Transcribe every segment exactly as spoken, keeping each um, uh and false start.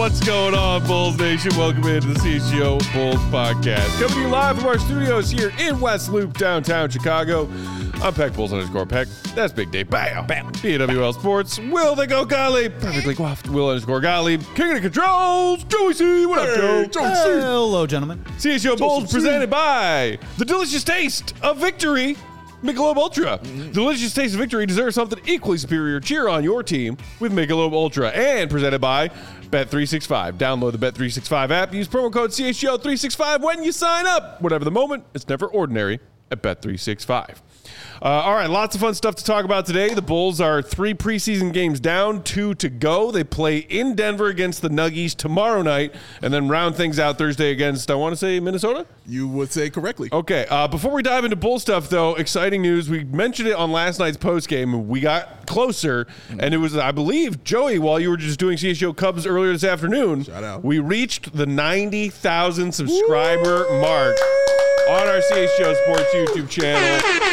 What's going on, Bulls Nation? Welcome into the C H G O Bulls Podcast. Coming to you live from our studios here in West Loop, downtown Chicago. I'm Peck Bulls underscore Peck. That's Big Dave. Bam. Bam. B W L Sports. Will they go Gottlieb? Perfectly coiffed. Will underscore Gottlieb. King of the controls. Joey C. What up, Joe? Joey C. Hello, gentlemen. C H G O Bulls presented by the delicious taste of victory. Michelob Ultra. Mm-hmm. The delicious taste of victory deserves something equally superior. Cheer on your team with Michelob Ultra. And presented by Bet three sixty-five. Download the Bet three sixty-five app. Use promo code C H G O three sixty-five when you sign up. Whatever the moment, it's never ordinary at Bet three sixty-five. Uh, all right, lots of fun stuff to talk about today. The Bulls are three preseason games down, two to go. They play in Denver against the Nuggies tomorrow night, and then round things out Thursday against, I want to say, Minnesota? You would say correctly. Okay, uh, before we dive into Bull stuff, though, exciting news. We mentioned it on last night's postgame. We got closer, and it was, I believe, Joey, while you were just doing C H G O Cubs earlier this afternoon, Shout out. we reached the ninety thousand subscriber Woo! mark on our C H G O Sports YouTube channel.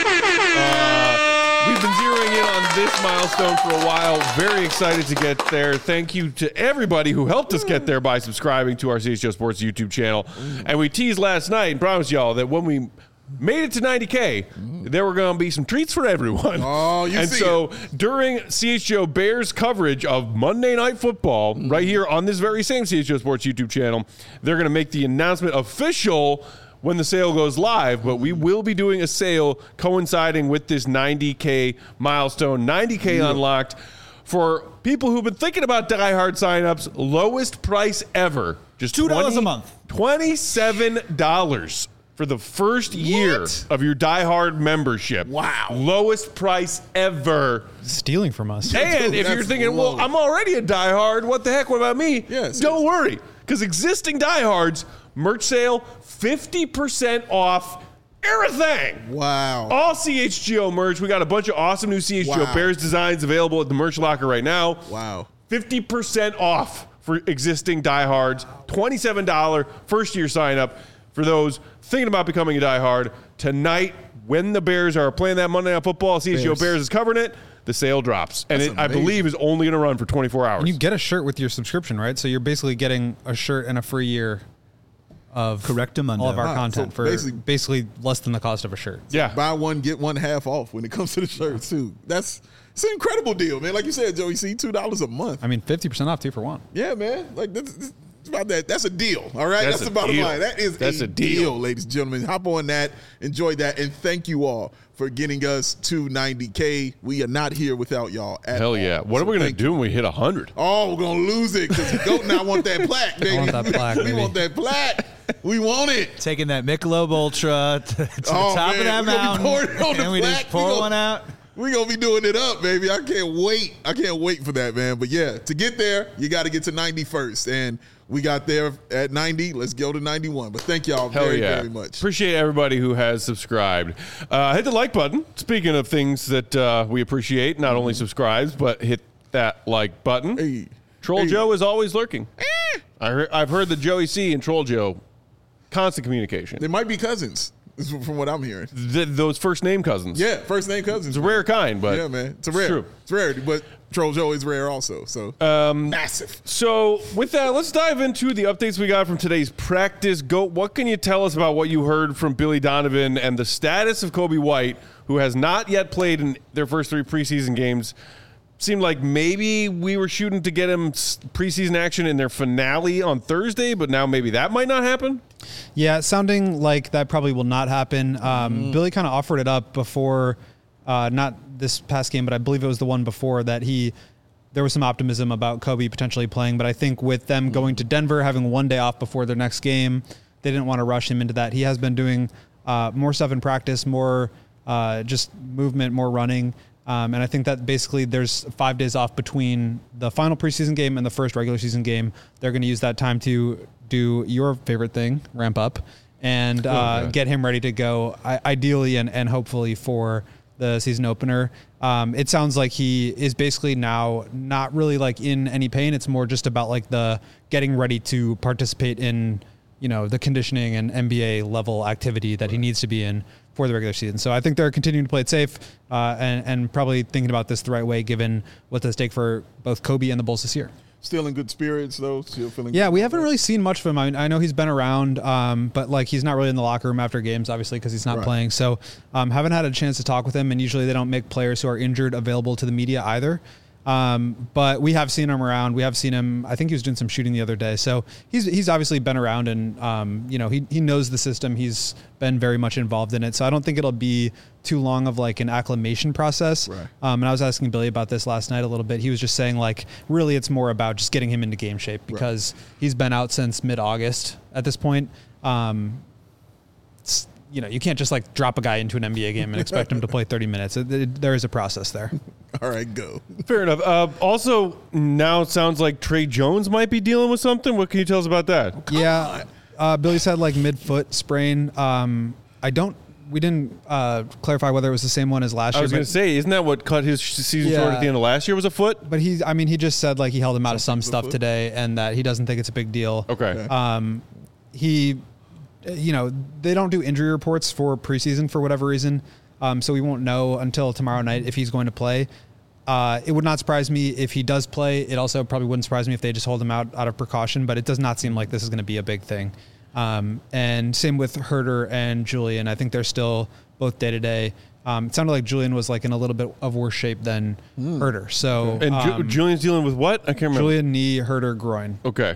Uh, we've been zeroing in on this milestone for a while. Very excited to get there. Thank you to everybody who helped us get there by subscribing to our C H G O Sports YouTube channel. And we teased last night and promised y'all that when we made it to ninety K, there were going to be some treats for everyone. Oh, you and see so it. During C H G O Bears coverage of Monday Night Football, mm-hmm. right here on this very same C H G O Sports YouTube channel, they're going to make the announcement official when the sale goes live, but we will be doing a sale coinciding with this ninety K milestone, ninety K yeah. unlocked. For people who've been thinking about Die Hard signups, lowest price ever. Just two dollars a month. twenty-seven dollars for the first what? year of your Die Hard membership. Wow. Lowest price ever. Stealing from us. And Dude, if you're thinking, low. well, I'm already a Die Hard, what the heck, what about me? Yes. Don't worry, because existing Die Hards, merch sale, fifty percent off everything. Wow. All C H G O merch. We got a bunch of awesome new C H G O wow. Bears designs available at the merch locker right now. Wow. fifty percent off for existing diehards. twenty-seven dollars first year sign up for those thinking about becoming a diehard. Tonight, when the Bears are playing that Monday Night Football, C H G O Bears, Bears is covering it. The sale drops. And it, I believe is only going to run for twenty-four hours. And you get a shirt with your subscription, right? So you're basically getting a shirt and a free year of Correctamundo. all of our ah, content so for basically, basically less than the cost of a shirt. Yeah. Buy one, get one half off when it comes to the shirts, too. That's it's an incredible deal, man. Like you said, Joey C, two dollars a month. I mean, fifty percent off, two for one. Yeah, man. Like, that's, that's about that. That's a deal, all right? That's That's the bottom deal. line. That is That's a, a deal. deal, ladies and gentlemen. Hop on that. Enjoy that. And thank you all for getting us to ninety K. We are not here without y'all at Hell all. yeah. What So are we going to thank do when we hit one hundred? Oh, we're going to lose it because the GOAT now want that plaque, baby. I want that plaque, we baby. want that plaque. We want it. Taking that Michelob Ultra to, to Oh, the top man, of that we gonna be mountain, pouring it on the and we plaque. just pour We gonna- one out. We're going to be doing it up, baby. I can't wait. I can't wait for that, man. But, yeah, to get there, you got to get to ninety first. And we got there at ninety. Let's go to ninety-one. But thank y'all Hell very, yeah. very much. Appreciate everybody who has subscribed. Uh, hit the like button. Speaking of things that uh, we appreciate, not only subscribes, but hit that like button. Hey. Troll Hey. Joe is always lurking. I heard, I've heard that Joey C and Troll Joe, constant communication. They might be cousins, from what I'm hearing. Th- those first name cousins. Yeah, first name cousins. It's a rare kind, but yeah, man. It's a rare. true. It's rarity, but Troll Joe is rare also. So Um, massive. So with that, let's dive into the updates we got from today's practice. Goat, what can you tell us about what you heard from Billy Donovan and the status of Kobe White, who has not yet played in their first three preseason games? Seemed like maybe we were shooting to get him preseason action in their finale on Thursday, but now maybe that might not happen. Yeah, sounding like that probably will not happen. Um, mm. Billy kind of offered it up before, uh, not this past game, but I believe it was the one before that he, there was some optimism about Kobe potentially playing. But I think with them going to Denver, having one day off before their next game, they didn't want to rush him into that. He has been doing uh, more stuff in practice, more uh, just movement, more running. Um, and I think that basically there's five days off between the final preseason game and the first regular season game. They're going to use that time to do your favorite thing, ramp up, and uh, okay. get him ready to go, I- ideally and, and hopefully for the season opener. Um, it sounds like he is basically now not really like in any pain. It's more just about like the getting ready to participate in, you know, the conditioning and N B A level activity that he needs to be in for the regular season. So I think they're continuing to play it safe uh, and, and probably thinking about this the right way, given what's at stake for both Kobe and the Bulls this year. still in good spirits though. Still feeling. Yeah, good we about haven't that? really seen much of him. I mean, I know he's been around, um, but like he's not really in the locker room after games, obviously, because he's not Right. playing. So um, haven't had a chance to talk with him. And usually they don't make players who are injured available to the media either. Um, but we have seen him around. We have seen him. I think he was doing some shooting the other day. So he's he's obviously been around, and um, you know he he knows the system. He's been very much involved in it. So I don't think it'll be too long of like an acclimation process. Right. Um, and I was asking Billy about this last night a little bit. He was just saying like really it's more about just getting him into game shape because he's been out since mid-August at this point. Um, it's, you know, you can't just like drop a guy into an N B A game and expect him to play thirty minutes. It, it, there is a process there. All right, go. Fair enough. Uh, also, now it sounds like Trey Jones might be dealing with something. What can you tell us about that? yeah. Uh, Billy said like mid-foot sprain. Um, I don't, we didn't uh, clarify whether it was the same one as last I year. was going to but- say, isn't that what cut his season Yeah. short at the end of last year was a foot? But he, I mean, he just said like he held him out of some Something's stuff afoot. today and that he doesn't think it's a big deal. Okay. Um, he, you know, they don't do injury reports for preseason for whatever reason. Um, so we won't know until tomorrow night if he's going to play. Uh, it would not surprise me if he does play. It also probably wouldn't surprise me if they just hold him out out of precaution, but it does not seem like this is going to be a big thing. Um, and same with Herter and Julian. I think they're still both day to day. Um, it sounded like Julian was like in a little bit of worse shape than Herter. So And Ju- um, Julian's dealing with what? I can't remember. Julian knee, Herter groin. Okay.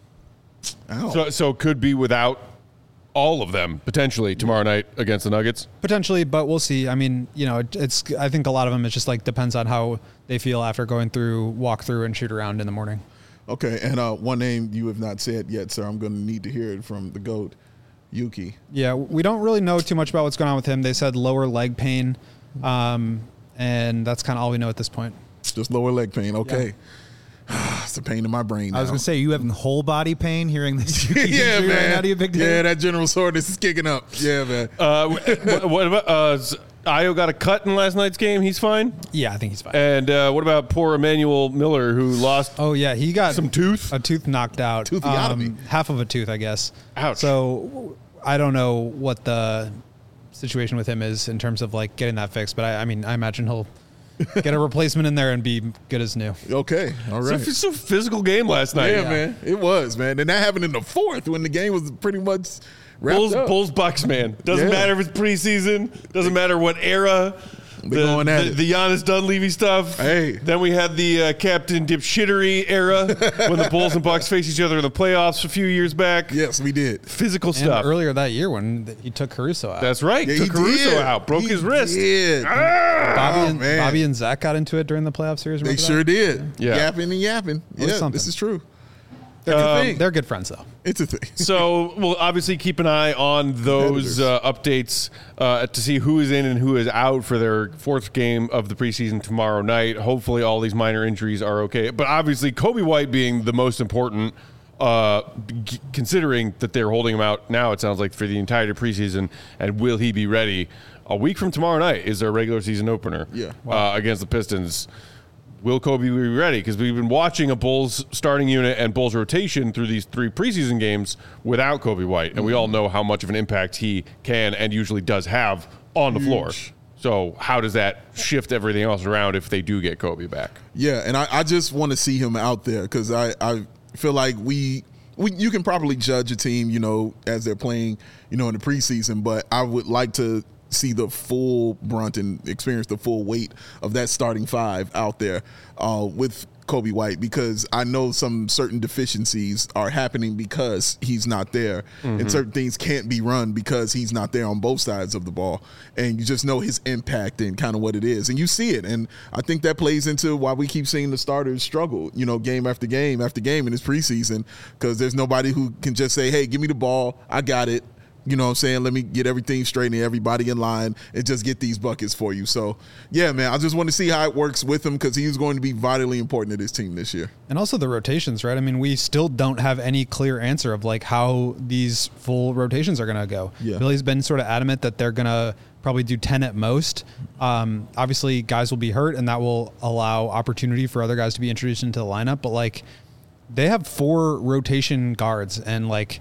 Ow. So, so could be without all of them potentially tomorrow night against the Nuggets. Potentially, but we'll see. I mean, you know, it, it's. I think a lot of them. It just like depends on how they feel after going through, walk through, and shoot around in the morning. Okay, and uh, one name you have not said yet, sir. I'm going to need to hear it from the GOAT, Yuki. Yeah, we don't really know too much about what's going on with him. They said lower leg pain, um, and that's kind of all we know at this point. Just lower leg pain. Okay. It's a pain in my brain now. I was going to say, you having whole body pain hearing this? yeah, injury man. Right now, do you a big deal? Yeah, that general soreness is kicking up. Yeah, man. Uh, what, what about uh, Z- Io got a cut in last night's game? He's fine. Yeah, I think he's fine. And uh, what about poor Emmanuel Miller who lost? oh yeah, he got Some tooth? a tooth knocked out, Um, Toothy-otomy. half of a tooth, I guess. Ouch. So I don't know what the situation with him is in terms of like getting that fixed, but I, I mean, I imagine he'll get a replacement in there and be good as new. Okay, all right. It's a physical game last night. yeah, man. It was, man. And that happened in the fourth when the game was pretty much wrapped Bulls, up. Bulls, Bucks, man. Doesn't Yeah. matter if it's preseason. Doesn't matter what era. They're going at the, it. the Giannis Dunleavy stuff. Hey. Then we had the uh, Captain Dipshittery era when the Bulls and Bucks faced each other in the playoffs a few years back. Yes, we did. Physical And stuff. earlier that year when th- he took Caruso out. That's right. Yeah, Took he Caruso did. out. Broke He his wrist. Did. Bobby, Oh, and, man. Bobby and Zach got into it during the playoff series. They remember sure that? did. Yeah. Yapping and yapping. was Yeah, something. this is true. It's Um, a thing. They're good friends though. It's a thing. So we'll obviously keep an eye on those Competitors. uh, updates uh, to see who is in and who is out for their fourth game of the preseason tomorrow night. Hopefully, all these minor injuries are okay. But obviously, Kobe White being the most important, uh, g- considering that they're holding him out now, it sounds like for the entire preseason. And will he be ready? A week from tomorrow night is their regular season opener. Yeah. uh, against the Pistons. Will Kobe be ready? Because we've been watching a Bulls starting unit and Bulls rotation through these three preseason games without Kobe White, and we all know how much of an impact he can and usually does have on the floor. So how does that shift everything else around if they do get Kobe back? Yeah, and I, I just want to see him out there because I, I feel like we, we you can probably judge a team, you know, as they're playing, you know, in the preseason, but I would like to see the full brunt and experience the full weight of that starting five out there uh, with Kobe White, because I know some certain deficiencies are happening because he's not there, Mm-hmm. and certain things can't be run because he's not there on both sides of the ball, and you just know his impact and kind of what it is, and you see it, and I think that plays into why we keep seeing the starters struggle, you know, game after game after game in this preseason, because there's nobody who can just say, hey, give me the ball, I got it. You know what I'm saying? Let me get everything straight and everybody in line and just get these buckets for you. So, yeah, man, I just want to see how it works with him because he's going to be vitally important to this team this year. And also the rotations, right? I mean, we still don't have any clear answer of like how these full rotations are going to go. Yeah. Billy's been sort of adamant that they're going to probably do ten at most. Um, obviously, guys will be hurt, and that will allow opportunity for other guys to be introduced into the lineup. But like, they have four rotation guards, and like,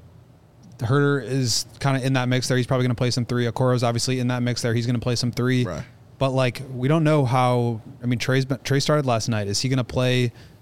Herter is kind of in that mix there. He's probably going to play some three. Okoro's obviously in that mix there. He's going to play some three. Right. But like, we don't know how. I mean, Trey's been, Trey started last night. Is he going to play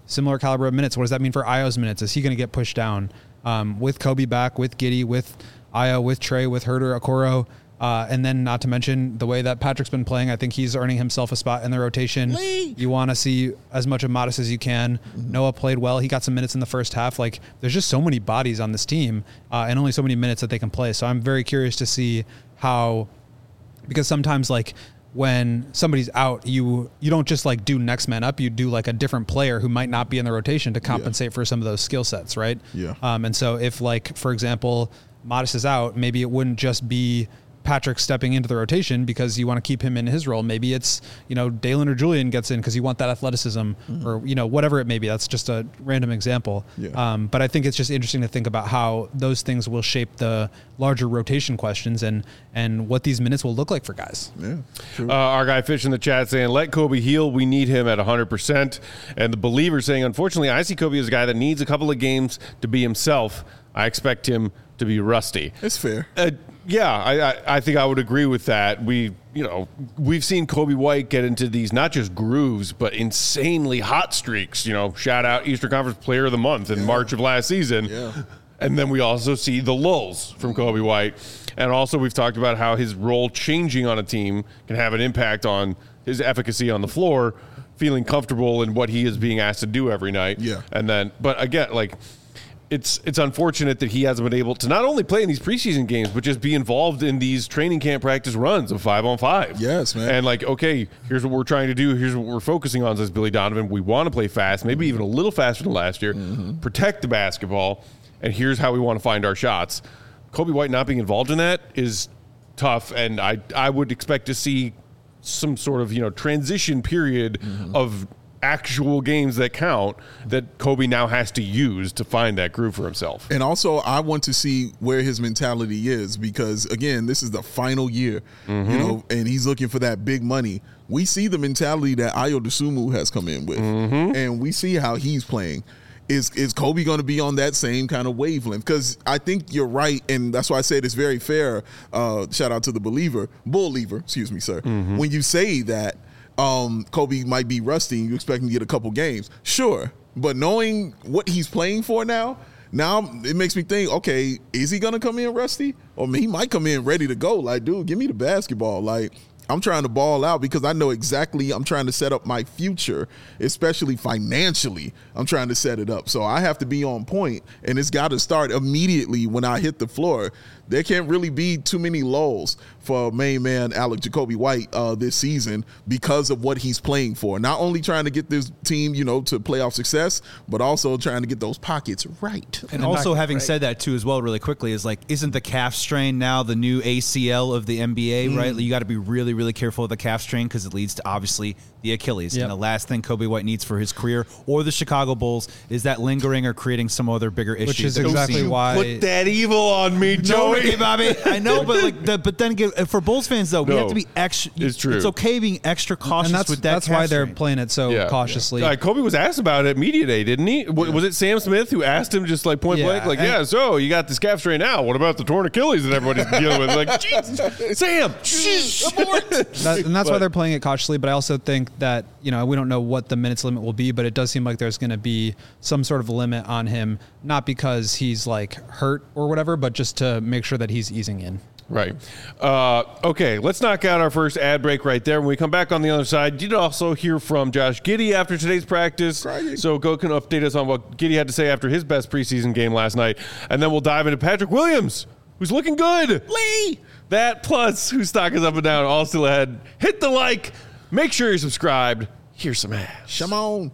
similar caliber of minutes. What does that mean for Ayo's minutes? Is he going to get pushed down? Um, with Kobe back, with Giddey, with Ayo, with Trey, with Herter, Okoro, uh, and then not to mention the way that Patrick's been playing, I think he's earning himself a spot in the rotation. Lee. You want to see as much of Modest as you can. Mm-hmm. Noah played well. He got some minutes in the first half. Like, there's just so many bodies on this team uh, and only so many minutes that they can play. So I'm very curious to see how, because sometimes like when somebody's out, you you don't just like do next man up. You do like a different player who might not be in the rotation to compensate yeah. for some of those skill sets, right? Yeah. Um, and so if like, for example, Modest is out, maybe it wouldn't just be Patrick stepping into the rotation because you want to keep him in his role. Maybe it's, you know, Dalen or Julian gets in because you want that athleticism mm-hmm. or, you know, whatever it may be. That's just a random example. Yeah. Um, but I think it's just interesting to think about how those things will shape the larger rotation questions and, and what these minutes will look like for guys. Yeah, uh, our guy Fish in the chat saying, let Kobe heal. We need him at one hundred percent. And the Believer saying, unfortunately, I see Kobe as a guy that needs a couple of games to be himself. I expect him to be rusty. It's fair. Uh, yeah, I, I, I think I would agree with that. We, you know, we've seen Kobe White get into these not just grooves, but insanely hot streaks. You know, shout out Eastern Conference Player of the Month in yeah. March of last season. Yeah. And then we also see the lulls from Kobe White. And also we've talked about how his role changing on a team can have an impact on his efficacy on the floor, feeling comfortable in what he is being asked to do every night. Yeah. And then, but again, like, It's it's unfortunate that he hasn't been able to not only play in these preseason games, but just be involved in these training camp practice runs of five on five. Yes, man. And like, okay, here's what we're trying to do. Here's what we're focusing on, says Billy Donovan. We want to play fast, maybe even a little faster than last year, mm-hmm. protect the basketball, and here's how we want to find our shots. Kobe White not being involved in that is tough, and I I would expect to see some sort of, you know, transition period mm-hmm. of actual games that count that Kobe now has to use to find that groove for himself. And also I want to see where his mentality is because again, this is the final year, mm-hmm. you know, and he's looking for that big money. We see the mentality that Ayo Dosunmu has come in with mm-hmm. and we see how he's playing. Is is Kobe going to be on that same kind of wavelength? Because I think you're right, and that's why I said it's very fair. Uh, shout out to the believer, bull lever, excuse me, sir. Mm-hmm. When you say that Um, Kobe might be rusty and you expect him to get a couple games. Sure. But knowing what he's playing for now, now it makes me think, okay, is he going to come in rusty? Or he might come in ready to go. Like, dude, give me the basketball. Like, I'm trying to ball out because I know exactly I'm trying to set up my future, especially financially. I'm trying to set it up. So I have to be on point, and it's got to start immediately when I hit the floor. There can't really be too many lulls for main man Alec Jacoby White uh, this season because of what he's playing for. Not only trying to get this team, you know, to playoff success, but also trying to get those pockets right. And, and also having right. said that too as well really quickly is like, isn't the calf strain now the new A C L of the N B A, mm. right? You got to be really, really careful of the calf strain because it leads to obviously the Achilles. Yep. And the last thing Kobe White needs for his career or the Chicago Bulls is that lingering or creating some other bigger issue. Which is exactly why. Put that evil on me, Joey. No, Bobby. I know, but like, the, but then again, for Bulls fans though, we no, have to be extra. It's true. It's okay being extra cautious and that's, with that. That's why they're strain. playing it so yeah, cautiously. Yeah. Uh, Kobe was asked about it at media day, didn't he? W- yeah. Was it Sam Smith who asked him just like point yeah, blank, like, yeah, so you got this calf strain now. What about the torn Achilles that everybody's dealing with? Like, Jesus, Sam, shh, abort. That, and that's but, why they're playing it cautiously. But I also think that, you know, we don't know what the minutes limit will be, but it does seem like there's going to be some sort of limit on him, not because he's like hurt or whatever, but just to make sure that he's easing in. Right. Uh, okay, let's knock out our first ad break right there. When we come back on the other side, you did also hear from Josh Giddey after today's practice. Crying. So go can update us on what Giddey had to say after his best preseason game last night. And then we'll dive into Patrick Williams, who's looking good. Lee! That plus whose stock is up and down, all still ahead. Hit the like. Make sure you're subscribed. Here's some ads. Come on.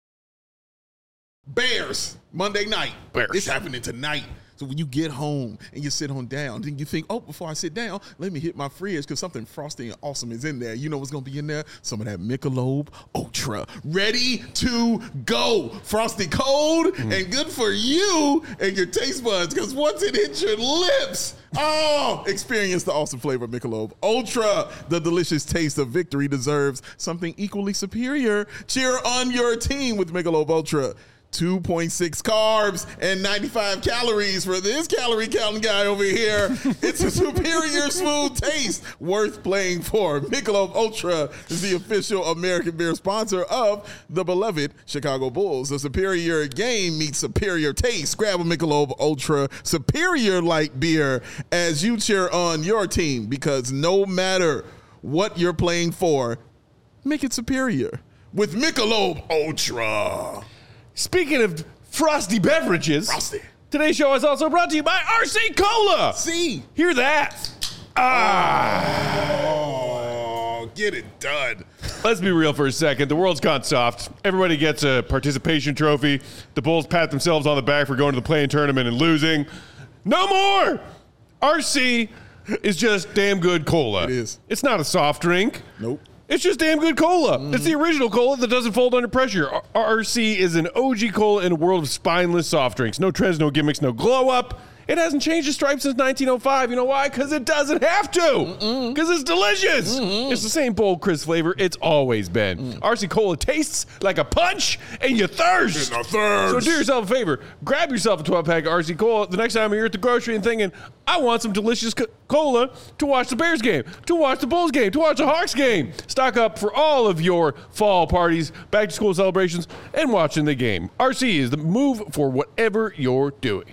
Bears, Monday night. Bears. It's happening tonight. So when you get home and you sit on down, then you think, oh, before I sit down, let me hit my fridge because something frosty and awesome is in there. You know what's going to be in there? Some of that Michelob Ultra. Ready to go. Frosty cold mm. and good for you and your taste buds because once it hits your lips, oh, experience the awesome flavor of Michelob Ultra. The delicious taste of victory deserves something equally superior. Cheer on your team with Michelob Ultra. two point six carbs and ninety-five calories for this calorie counting guy over here. It's a superior smooth taste worth playing for. Michelob Ultra is the official American beer sponsor of the beloved Chicago Bulls. The superior game meets superior taste. Grab a Michelob Ultra superior light beer as you cheer on your team, because no matter what you're playing for, make it superior with Michelob Ultra. Speaking of frosty beverages, Frosty. Today's show is also brought to you by R C Cola. See? Hear that? Ah. Oh, get it done. Let's be real for a second. The world's gone soft. Everybody gets a participation trophy. The Bulls pat themselves on the back for going to the play-in tournament and losing. No more! R C is just damn good cola. It is. It's not a soft drink. Nope. It's just damn good cola. Mm. It's the original cola that doesn't fold under pressure. R- RC is an O G cola in a world of spineless soft drinks. No trends, no gimmicks, no glow up. It hasn't changed its stripe since nineteen oh five. You know why? Because it doesn't have to. Because it's delicious. Mm-mm. It's the same bold, crisp flavor it's always been. Mm. R C Cola tastes like a punch and you thirst. And a thirst. So do yourself a favor. Grab yourself a twelve-pack of R C Cola the next time you're at the grocery and thinking, I want some delicious co- cola to watch the Bears game, to watch the Bulls game, to watch the Hawks game. Stock up for all of your fall parties, back-to-school celebrations, and watching the game. R C is the move for whatever you're doing.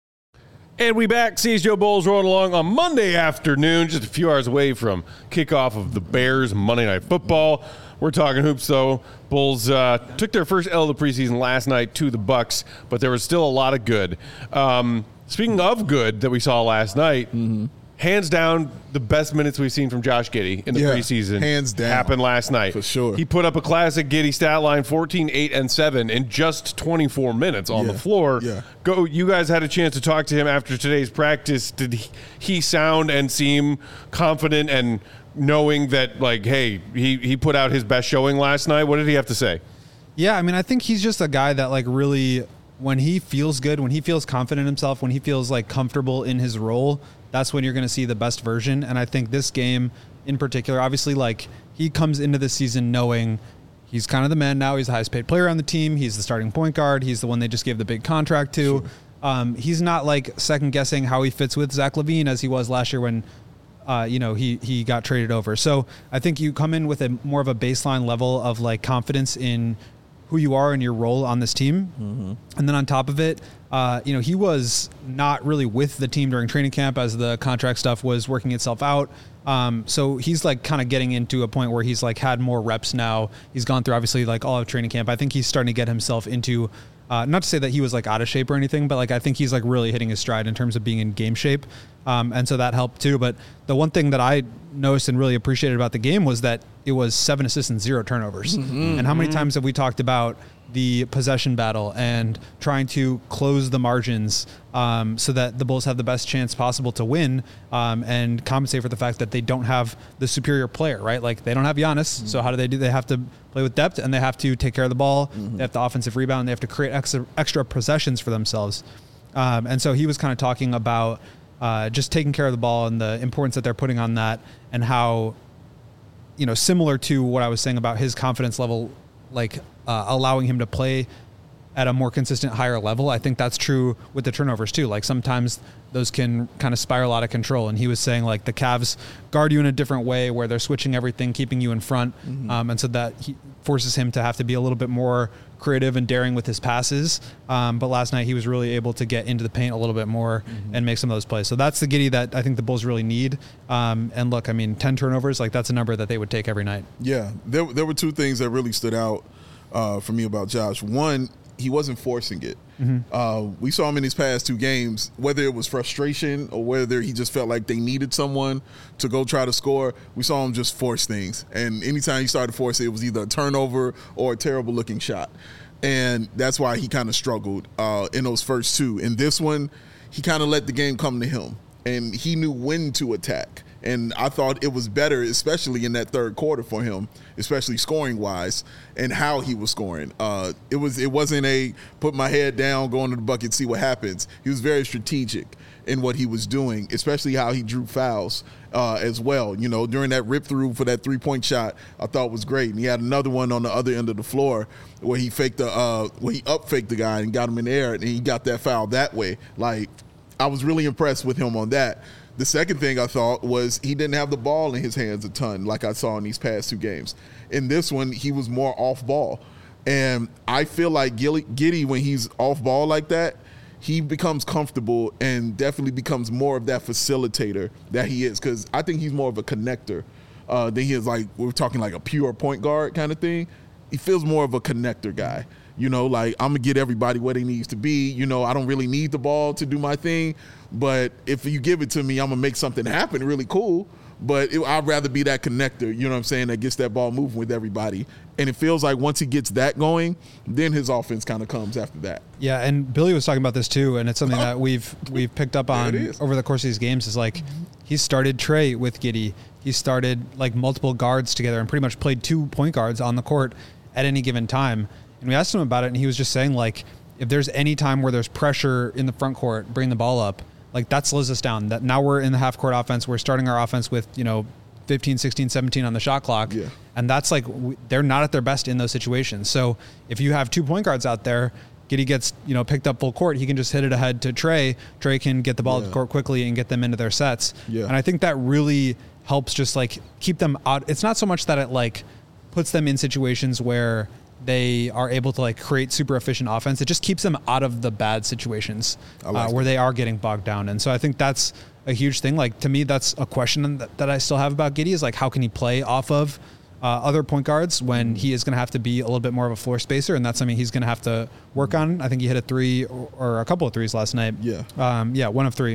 And we back. C S G O Bulls rolling along on Monday afternoon, just a few hours away from kickoff of the Bears Monday Night Football. We're talking hoops, though. Bulls uh, took their first L of the preseason last night to the Bucks, but there was still a lot of good. Um, speaking of good that we saw last night, mm-hmm. hands down, the best minutes we've seen from Josh Giddey in the yeah, preseason hands down. happened last night. For sure. He put up a classic Giddey stat line, fourteen, eight, and seven in just twenty-four minutes on yeah. the floor. Yeah. Go. You guys had a chance to talk to him after today's practice. Did he, he sound and seem confident and knowing that, like, hey, he, he put out his best showing last night? What did he have to say? Yeah, I mean, I think he's just a guy that, like, really, when he feels good, when he feels confident in himself, when he feels, like, comfortable in his role, that's when you're going to see the best version. And I think this game in particular, obviously, like, he comes into the season knowing he's kind of the man now. He's the highest paid player on the team. He's the starting point guard. He's the one they just gave the big contract to. Sure. Um, he's not, like, second guessing how he fits with Zach LaVine as he was last year when, uh, you know, he, he got traded over. So I think you come in with a more of a baseline level of, like, confidence in who you are and your role on this team. Mm-hmm. And then on top of it, uh, you know, he was not really with the team during training camp as the contract stuff was working itself out. Um, so he's like kind of getting into a point where he's like had more reps now. He's gone through obviously like all of training camp. I think he's starting to get himself into, uh, not to say that he was like out of shape or anything, but like I think he's like really hitting his stride in terms of being in game shape. Um, and so that helped too. But the one thing that I noticed and really appreciated about the game was that it was seven assists and zero turnovers. Mm-hmm. And how many times have we talked about the possession battle and trying to close the margins um, so that the Bulls have the best chance possible to win um, and compensate for the fact that they don't have the superior player, right? Like they don't have Giannis. Mm-hmm. So how do they do? They have to play with depth and they have to take care of the ball. Mm-hmm. They have the offensive rebound. They have to create extra, extra possessions for themselves. Um, and so he was kind of talking about uh, just taking care of the ball and the importance that they're putting on that and how, you know, similar to what I was saying about his confidence level, like uh, allowing him to play at a more consistent, higher level. I think that's true with the turnovers too. Like sometimes those can kind of spiral out of control. And he was saying like the Cavs guard you in a different way where they're switching everything, keeping you in front. Mm-hmm. Um, and so that he forces him to have to be a little bit more creative and daring with his passes. Um, but last night he was really able to get into the paint a little bit more mm-hmm. and make some of those plays. So that's the Giddey that I think the Bulls really need. Um, and look, I mean, ten turnovers, like that's a number that they would take every night. Yeah. There, there were two things that really stood out uh, for me about Josh. One, he wasn't forcing it. Mm-hmm. Uh, we saw him in these past two games, whether it was frustration or whether he just felt like they needed someone to go try to score. We saw him just force things. And anytime he started to force it, it was either a turnover or a terrible looking shot. And that's why he kind of struggled uh, in those first two. In this one, he kind of let the game come to him. And he knew when to attack. And I thought it was better, especially in that third quarter for him, especially scoring-wise, and how he was scoring. Uh, it was it wasn't a put my head down, go into the bucket, see what happens. He was very strategic. in what he was doing, especially how he drew fouls uh, as well. You know, during that rip through for that three point shot, I thought was great. And he had another one on the other end of the floor where he faked the, uh, where he up faked the guy and got him in the air, and he got that foul that way. Like, I was really impressed with him on that. The second thing I thought was he didn't have the ball in his hands a ton like I saw in these past two games. In this one, he was more off ball. And I feel like Giddey, when he's off ball like that, he becomes comfortable and definitely becomes more of that facilitator that he is, because I think he's more of a connector uh, than he is like, we're talking like a pure point guard kind of thing. He feels more of a connector guy. You know, like, I'm going to get everybody where they needs to be. You know, I don't really need the ball to do my thing, but if you give it to me, I'm going to make something happen really cool. But it, I'd rather be that connector, you know what I'm saying, that gets that ball moving with everybody. And it feels like once he gets that going, then his offense kind of comes after that. Yeah, and Billy was talking about this too, and it's something that we've we've picked up on over the course of these games is like he started Trey with Giddey. He started like multiple guards together and pretty much played two point guards on the court at any given time. And we asked him about it, and he was just saying, like, if there's any time where there's pressure in the front court, bring the ball up, like, that slows us down. That now we're in the half-court offense. We're starting our offense with, you know, fifteen, sixteen, seventeen on the shot clock. Yeah. And that's, like, we, they're not at their best in those situations. So if you have two point guards out there, Giddey gets, you know, picked up full court, he can just hit it ahead to Trey. Trey can get the ball yeah. to the court quickly and get them into their sets. Yeah. And I think that really helps just, like, keep them out. It's not so much that it, like, puts them in situations where they are able to like create super efficient offense. It just keeps them out of the bad situations like uh, where they are getting bogged down. And so I think that's a huge thing. Like, to me, that's a question that, that I still have about Giddey is like, how can he play off of uh, other point guards when he is going to have to be a little bit more of a floor spacer? And that's something he's going to have to work on. I think he hit a three or, or a couple of threes last night. Yeah. Um, yeah. One of three.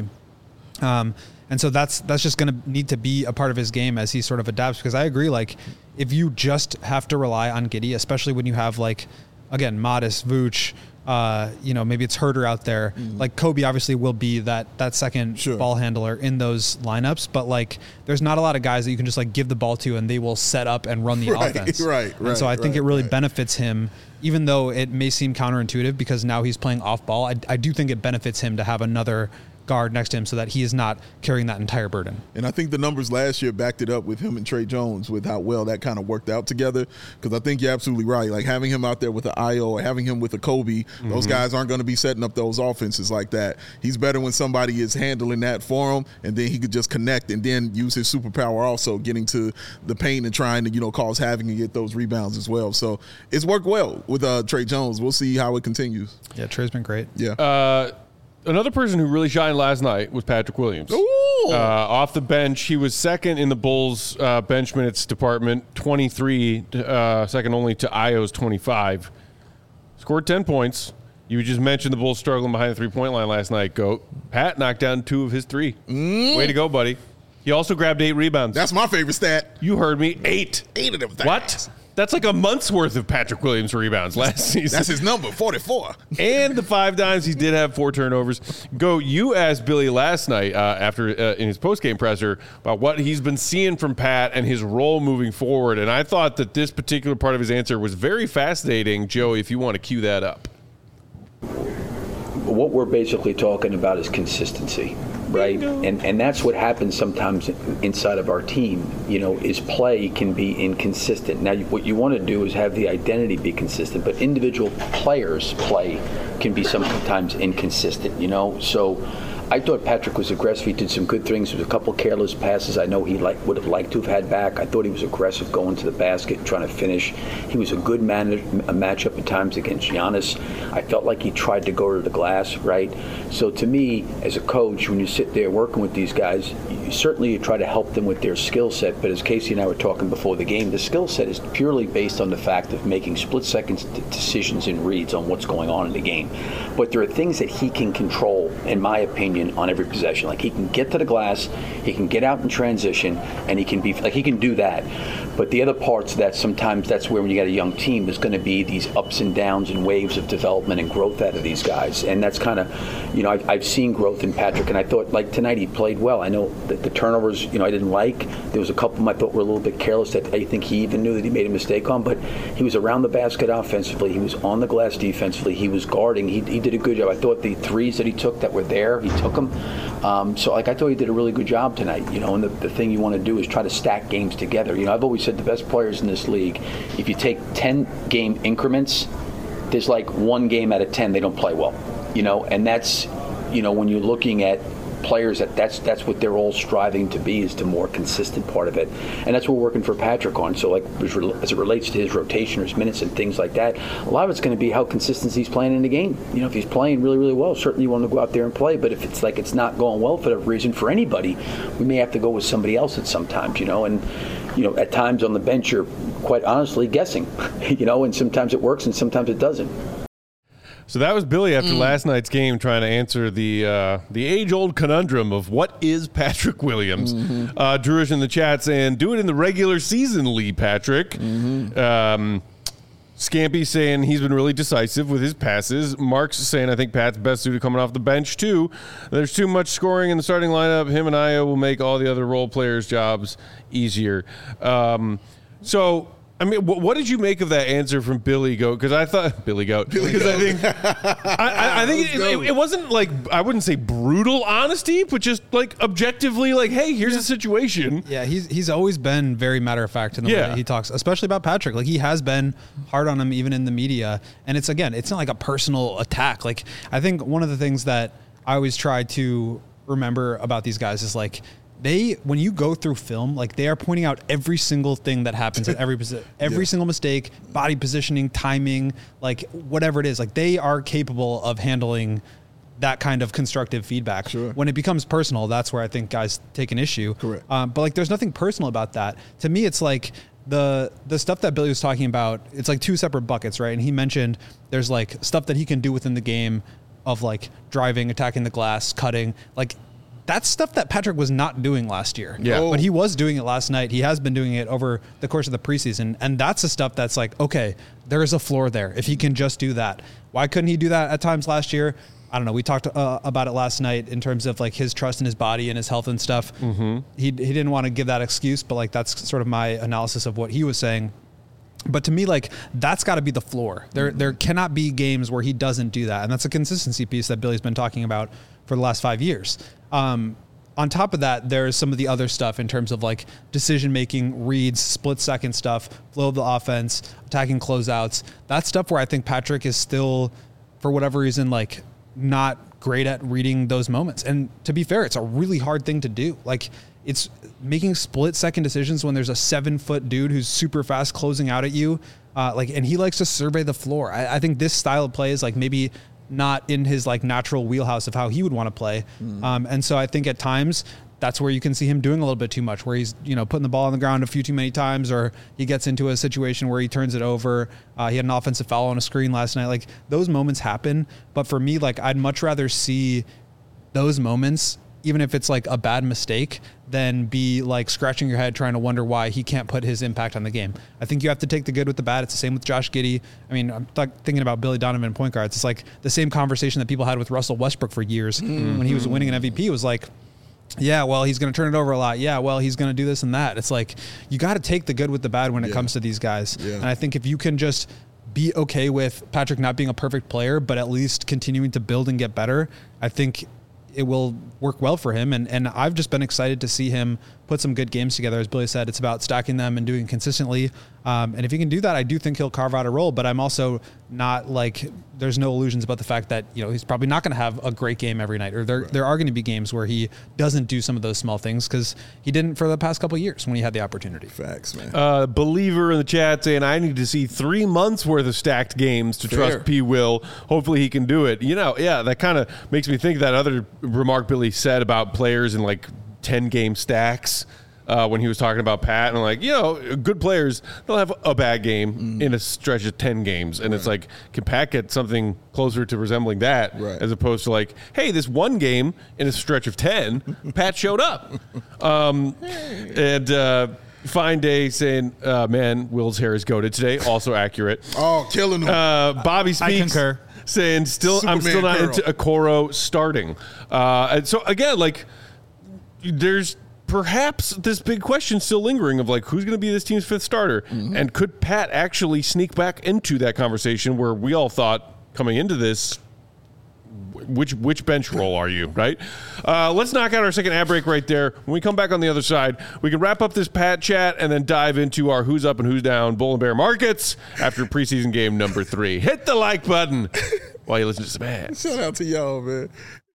Um, And so that's that's just going to need to be a part of his game as he sort of adapts, because I agree, like, if you just have to rely on Giddey, especially when you have, like, again, Modest, Vooch, uh, you know, maybe it's Herter out there. Mm. Like, Kobe obviously will be that that second sure. ball handler in those lineups, but, like, there's not a lot of guys that you can just, like, give the ball to and they will set up and run the right, offense. Right, right, And so I think right, it really right. benefits him, even though it may seem counterintuitive because now he's playing off ball. I, I do think it benefits him to have another guard next to him so that he is not carrying that entire burden. And I think the numbers last year backed it up with him and Trey Jones with how well that kind of worked out together, because I think you're absolutely right. Like, having him out there with an I O or having him with a Kobe, mm-hmm. those guys aren't going to be setting up those offenses like that. He's better when somebody is handling that for him, and then he could just connect and then use his superpower also, getting to the paint and trying to, you know, cause havoc and get those rebounds as well. So it's worked well with uh, Trey Jones. We'll see how it continues. Yeah, Trey's been great. Yeah. Uh, Another person who really shined last night was Patrick Williams. Ooh. Uh, off the bench, he was second in the Bulls uh, bench minutes department, twenty-three, uh, second only to Io's twenty-five. Scored ten points. You just mentioned the Bulls struggling behind the three-point line last night, Goat. Pat knocked down two of his three. Mm. Way to go, buddy. He also grabbed eight rebounds. That's my favorite stat. You heard me. Eight. Eight of them things. What? That's like a month's worth of Patrick Williams rebounds last season. That's his number, forty-four. And the five dimes, he did have four turnovers. Go, you asked Billy last night uh, after uh, in his postgame presser about what he's been seeing from Pat and his role moving forward. And I thought that this particular part of his answer was very fascinating. Joey, if you want to cue that up. What we're basically talking about is consistency, right? And and that's what happens sometimes inside of our team, you know, is play can be inconsistent. Now, what you want to do is have the identity be consistent, but individual players' play can be sometimes inconsistent, you know? So I thought Patrick was aggressive. He did some good things. There was a couple careless passes I know he like, would have liked to have had back. I thought he was aggressive going to the basket, trying to finish. He was a good man, a matchup at times against Giannis. I felt like he tried to go to the glass, right? So to me, as a coach, when you sit there working with these guys, you certainly you try to help them with their skill set. But as Casey and I were talking before the game, the skill set is purely based on the fact of making split-second decisions and reads on what's going on in the game. But there are things that he can control, in my opinion, on every possession. Like, he can get to the glass, he can get out in transition, and he can be like he can do that. But the other parts that sometimes that's where when you got a young team, there's going to be these ups and downs and waves of development and growth out of these guys. And that's kind of, you know, I've, I've seen growth in Patrick, and I thought, like tonight, he played well. I know that the turnovers, you know, I didn't like. There was a couple of them I thought were a little bit careless that I think he even knew that he made a mistake on, but he was around the basket offensively. He was on the glass defensively. He was guarding. He, he did a good job. I thought the threes that he took that were there, he took them. Um, so, like I thought, he did a really good job tonight. You know, and the, the thing you want to do is try to stack games together. You know, I've always said the best players in this league, if you take ten game increments, there's like one game out of ten they don't play well. You know, and that's, you know, when you're looking at players, that that's that's what they're all striving to be, is the more consistent part of it, and that's what we're working for Patrick on. So like as it relates to his rotation or his minutes and things like that, a lot of it's going to be how consistent he's playing in the game. You know, if he's playing really really well, certainly you want to go out there and play, but if it's like it's not going well for that reason for anybody, we may have to go with somebody else at sometimes, you know. And you know, at times on the bench you're quite honestly guessing, you know, and sometimes it works and sometimes it doesn't. So that was Billy after mm. last night's game, trying to answer the uh, the age-old conundrum of what is Patrick Williams. Mm-hmm. Uh, Drew is in the chat saying, do it in the regular season, Lee Patrick. Mm-hmm. Um, Scampy saying he's been really decisive with his passes. Mark's saying, I think Pat's best suited coming off the bench, too. There's too much scoring in the starting lineup. Him and Io will make all the other role players' jobs easier. Um, so... I mean, what, what did you make of that answer from Billy Goat? Because I thought Billy Goat. Because I think, I, I, I think it, it, it wasn't like, I wouldn't say brutal honesty, but just like objectively, like, hey, here's yeah. the situation. Yeah, he's he's always been very matter of fact in the yeah. way that he talks, especially about Patrick. Like, he has been hard on him even in the media, and it's again, it's not like a personal attack. Like, I think one of the things that I always try to remember about these guys is like, They, when you go through film, like they are pointing out every single thing that happens at every posi- every yeah. single mistake, body positioning, timing, like whatever it is. Like they are capable of handling that kind of constructive feedback. Sure. When it becomes personal, that's where I think guys take an issue. Correct. Um, but like, there's nothing personal about that. To me, it's like the the stuff that Billy was talking about. It's like two separate buckets, right? And he mentioned there's like stuff that he can do within the game of like driving, attacking the glass, cutting, like. That's stuff that Patrick was not doing last year. Yeah. But he was doing it last night. He has been doing it over the course of the preseason. And that's the stuff that's like, okay, there is a floor there. If he can just do that. Why couldn't he do that at times last year? I don't know. We talked uh, about it last night in terms of like his trust in his body and his health and stuff. Mm-hmm. He, he didn't want to give that excuse, but like that's sort of my analysis of what he was saying. But to me, like, that's got to be the floor. There there cannot be games where he doesn't do that. And that's a consistency piece that Billy's been talking about for the last five years. Um, on top of that, there's some of the other stuff in terms of, like, decision-making, reads, split-second stuff, flow of the offense, attacking closeouts. That's stuff where I think Patrick is still, for whatever reason, like, not great at reading those moments. And to be fair, it's a really hard thing to do. Like, it's making split second decisions when there's a seven foot dude who's super fast closing out at you. Uh, like, and he likes to survey the floor. I, I think this style of play is like maybe not in his like natural wheelhouse of how he would want to play. Mm. Um, and so I think at times that's where you can see him doing a little bit too much, where he's, you know, putting the ball on the ground a few too many times, or he gets into a situation where he turns it over. Uh, he had an offensive foul on a screen last night. Like, those moments happen. But for me, like, I'd much rather see those moments, even if it's like a bad mistake, than be like scratching your head trying to wonder why he can't put his impact on the game. I think you have to take the good with the bad. It's the same with Josh Giddey. I mean, I'm th- thinking about Billy Donovan point guards. It's like the same conversation that people had with Russell Westbrook for years mm-hmm. when he was winning an M V P. It was like, yeah, well, he's going to turn it over a lot. Yeah, well, he's going to do this and that. It's like, you got to take the good with the bad when it yeah. comes to these guys. Yeah. And I think if you can just be okay with Patrick not being a perfect player, but at least continuing to build and get better, I think it will work well for him. And, and I've just been excited to see him put some good games together. As Billy said, it's about stacking them and doing it consistently. Um, and if he can do that, I do think he'll carve out a role, but I'm also not like, there's no illusions about the fact that, you know, he's probably not going to have a great game every night, or there, right. there are going to be games where he doesn't do some of those small things, because he didn't for the past couple of years when he had the opportunity. Facts, man. Uh, believer in the chat saying, I need to see three months worth of stacked games to Fair. trust P. Will. Hopefully he can do it. You know, yeah, that kind of makes me think of that other remark Billy said about players in like ten game stacks. Uh, when he was talking about Pat, and I'm like, you know, good players, they'll have a bad game mm. in a stretch of ten games. And right. it's like, can Pat get something closer to resembling that, right. as opposed to like, hey, this one game in a stretch of ten, Pat showed up. Um, and uh, Fine Day saying, uh, man, Will's hair is goated today. Also accurate. Oh, killing him. Uh, Bobby Speaks. I concur. Saying, still, Superman I'm still not curl. into Okoro starting. Uh, and so, again, like, there's perhaps this big question still lingering of like, who's going to be this team's fifth starter? Mm-hmm. And could Pat actually sneak back into that conversation where we all thought coming into this, which which bench role are you, right? Uh, let's knock out our second ad break right there. When we come back on the other side, we can wrap up this Pat chat and then dive into our who's up and who's down Bull and Bear markets after preseason game number three. Hit the like button while you listen to some ads. Shout out to y'all, man.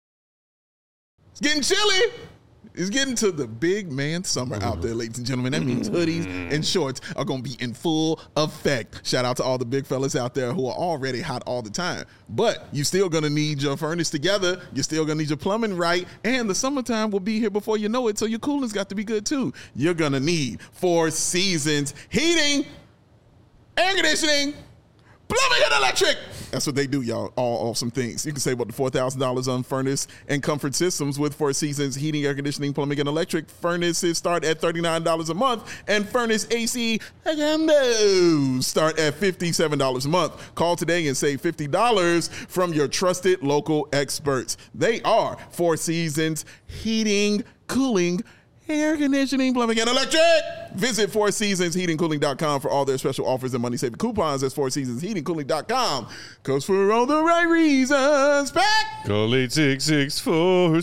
It's getting chilly. It's getting to the big man summer out there, ladies and gentlemen. That means hoodies and shorts are going to be in full effect. Shout out to all the big fellas out there who are already hot all the time. But you still going to need your furnace together. You're still going to need your plumbing right. And the summertime will be here before you know it, so your cooling's got to be good too. You're going to need Four Seasons heating, air conditioning, plumbing and electric. That's what they do, y'all. All awesome things. You can save up to four thousand dollars on furnace and comfort systems with Four Seasons heating, air conditioning, plumbing, and electric. Furnaces start at thirty-nine dollars a month, and furnace A C start at fifty-seven dollars a month. Call today and save fifty dollars from your trusted local experts. They are Four Seasons heating, cooling, air conditioning, plumbing, and electric. Visit four seasons heating cooling dot com for all their special offers and money-saving coupons. That's four seasons heating cooling dot com. Because for all the right reasons, back. Call eight six six four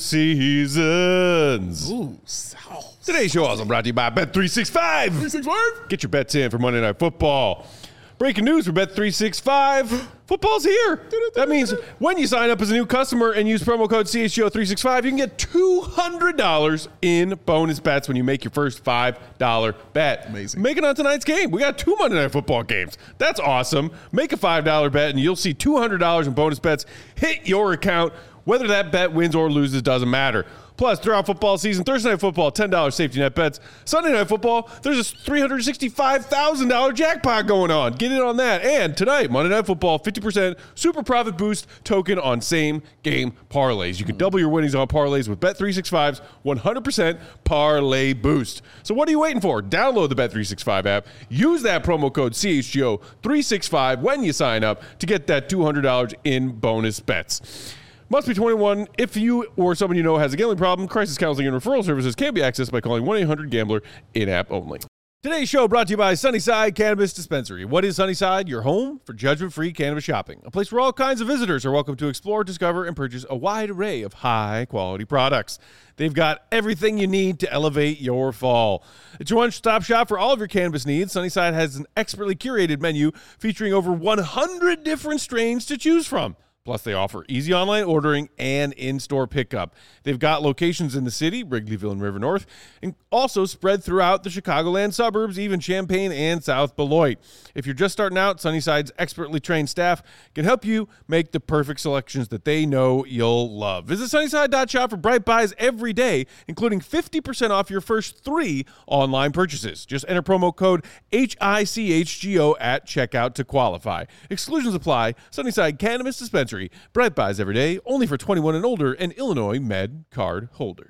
seasons. Ooh, sauce. Today's show also brought to you by Bet three sixty-five. three sixty-five. Get your bets in for Monday Night Football. Breaking news for Bet three sixty-five. Football's here. That means when you sign up as a new customer and use promo code C H G O three sixty-five, you can get two hundred dollars in bonus bets when you make your first five dollar bet. Amazing. Make it on tonight's game. We got two Monday Night Football games. That's awesome. Make a five dollar bet and you'll see two hundred dollars in bonus bets hit your account. Whether that bet wins or loses doesn't matter. Plus, throughout football season, Thursday Night Football, ten dollars safety net bets. Sunday Night Football, there's a three hundred sixty-five thousand dollars jackpot going on. Get in on that. And tonight, Monday Night Football, fifty percent super profit boost token on same game parlays. You can double your winnings on parlays with Bet three sixty-five's one hundred percent parlay boost. So what are you waiting for? Download the Bet three sixty-five app. Use that promo code C H G O three sixty-five when you sign up to get that two hundred dollars in bonus bets. Must be twenty-one. If you or someone you know has a gambling problem, crisis counseling and referral services can be accessed by calling one eight hundred gambler in-app only. Today's show brought to you by Sunnyside Cannabis Dispensary. What is Sunnyside? Your home for judgment-free cannabis shopping. A place where all kinds of visitors are welcome to explore, discover, and purchase a wide array of high-quality products. They've got everything you need to elevate your fall. It's your one-stop shop for all of your cannabis needs. Sunnyside has an expertly curated menu featuring over one hundred different strains to choose from. Plus, they offer easy online ordering and in-store pickup. They've got locations in the city, Wrigleyville and River North, and also spread throughout the Chicagoland suburbs, even Champaign and South Beloit. If you're just starting out, Sunnyside's expertly trained staff can help you make the perfect selections that they know you'll love. Visit Sunnyside dot shop for bright buys every day, including fifty percent off your first three online purchases. Just enter promo code H I C H G O at checkout to qualify. Exclusions apply. Sunnyside Cannabis Dispensary. Bright buys every day, only for twenty-one and older and Illinois Med card holders.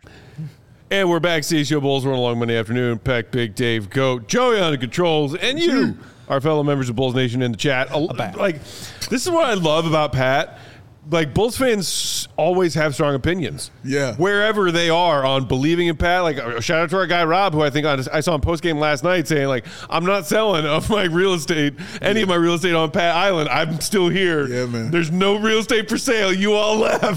And we're back. C H G O Bulls rolling along Monday afternoon. Peck, Big Dave, Goat, Joey on the controls, and you, our fellow members of Bulls Nation in the chat. Like, this is what I love about Pat. Like, Bulls fans always have strong opinions. Yeah. Wherever they are on believing in Pat. Like, shout out to our guy, Rob, who I think on, I saw him post-game last night saying, like, I'm not selling of my real estate, any yeah. of my real estate on Pat Island. I'm still here. Yeah, man. There's no real estate for sale. You all left.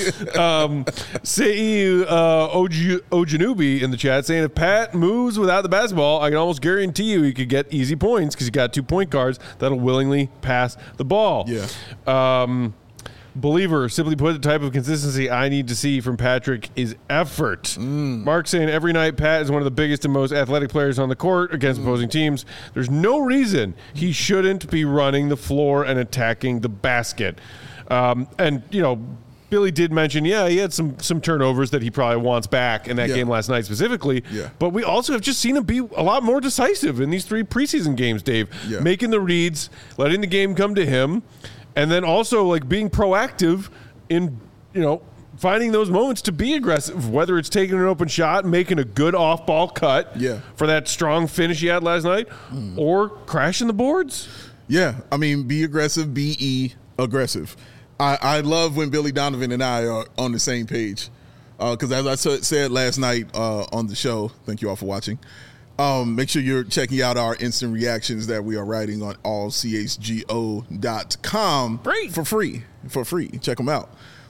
um, Sei uh, Ojanubi in the chat saying, if Pat moves without the basketball, I can almost guarantee you he could get easy points because he got two point guards that'll willingly pass the ball. Yeah. Um, Believer, simply put, the type of consistency I need to see from Patrick is effort. Mm. Mark saying every night Pat is one of the biggest and most athletic players on the court against mm. opposing teams. There's no reason he shouldn't be running the floor and attacking the basket. Um, and, you know, Billy did mention, yeah, he had some some turnovers that he probably wants back in that yeah. game last night specifically. Yeah. But we also have just seen him be a lot more decisive in these three preseason games, Dave. Yeah. Making the reads, letting the game come to him. And then also, like, being proactive in, you know, finding those moments to be aggressive, whether it's taking an open shot, making a good off-ball cut yeah. for that strong finish he had last night, mm. or crashing the boards. Yeah, I mean, be aggressive, be aggressive. I, I love when Billy Donovan and I are on the same page because, uh, as I said last night uh, on the show, thank you all for watching, Um, make sure you're checking out our instant reactions that we are writing on all C H G O dot com free. for free. For free. Check them out.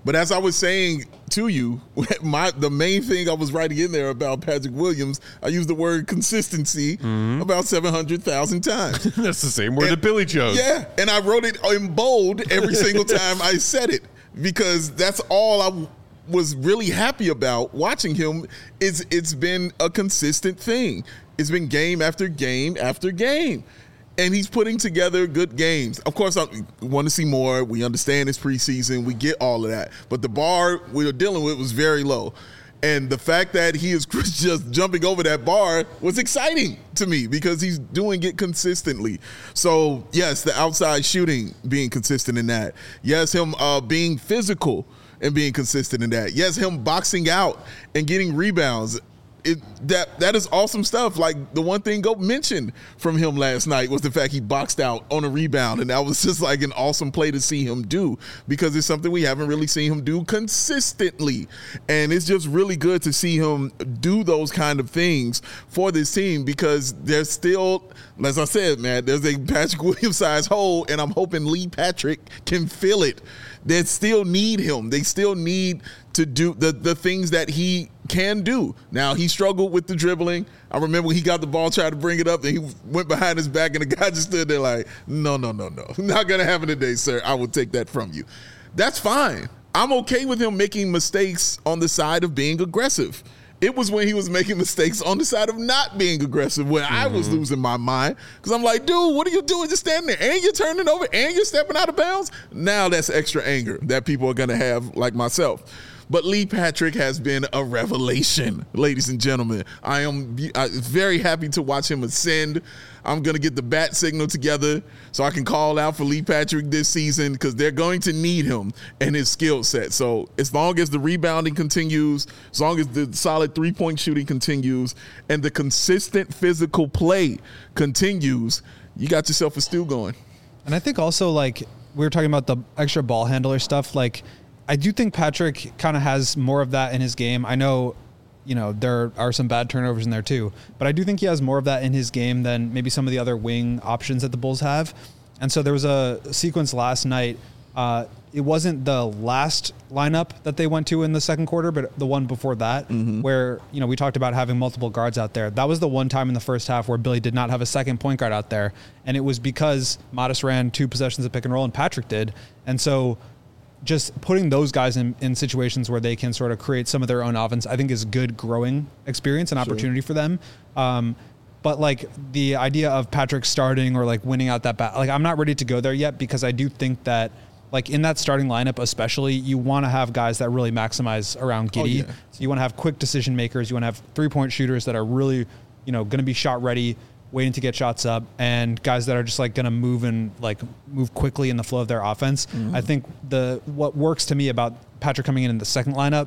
But as I was saying to you, my the main thing I was writing in there about Patrick Williams, I used the word consistency mm-hmm. about seven hundred thousand times. That's the same word and, that Billy chose. Yeah, and I wrote it in bold every single time I said it because that's all I was really happy about watching him. Is it's been a consistent thing. It's been game after game after game. And he's putting together good games. Of course, I want to see more. We understand it's preseason. We get all of that. But the bar we were dealing with was very low. And the fact that he is just jumping over that bar was exciting to me because he's doing it consistently. So, yes, the outside shooting being consistent in that. Yes, him uh, being physical and being consistent in that. Yes, him boxing out and getting rebounds. It, that that is awesome stuff. Like the one thing Go mentioned from him last night was the fact he boxed out on a rebound, and that was just like an awesome play to see him do because it's something we haven't really seen him do consistently, and it's just really good to see him do those kind of things for this team because there's still, as I said, man, there's a Patrick Williams size hole, and I'm hoping Lee Patrick can fill it. They still need him. They still need to do the, the things that he can do. Now, he struggled with the dribbling. I remember when he got the ball, tried to bring it up, and he went behind his back, and the guy just stood there like, no, no, no, no. Not going to happen today, sir. I will take that from you. That's fine. I'm okay with him making mistakes on the side of being aggressive. It was when he was making mistakes on the side of not being aggressive when mm-hmm. I was losing my mind because I'm like, dude, what are you doing? Just standing there and you're turning over and you're stepping out of bounds. Now that's extra anger that people are going to have like myself. But Lee Patrick has been a revelation, ladies and gentlemen. I am very happy to watch him ascend. I'm going to get the bat signal together so I can call out for Lee Patrick this season because they're going to need him and his skill set. So as long as the rebounding continues, as long as the solid three-point shooting continues, and the consistent physical play continues, you got yourself a stew going. And I think also, like, we were talking about the extra ball handler stuff, like, I do think Patrick kind of has more of that in his game. I know, you know, there are some bad turnovers in there too, but I do think he has more of that in his game than maybe some of the other wing options that the Bulls have. And so there was a sequence last night. Uh, it wasn't the last lineup that they went to in the second quarter, but the one before that, mm-hmm. where, you know, we talked about having multiple guards out there. That was the one time in the first half where Billy did not have a second point guard out there. And it was because Modest ran two possessions of pick and roll and Patrick did. And so just putting those guys in, in situations where they can sort of create some of their own offense, I think is good growing experience and opportunity sure. for them. Um, but like the idea of Patrick starting or like winning out that bat, like I'm not ready to go there yet because I do think that like in that starting lineup, especially, you want to have guys that really maximize around Giddey. Oh, yeah. So you want to have quick decision makers. You want to have three point shooters that are really, you know, going to be shot ready, waiting to get shots up, and guys that are just like going to move and like move quickly in the flow of their offense. Mm-hmm. I think the what works to me about Patrick coming in in the second lineup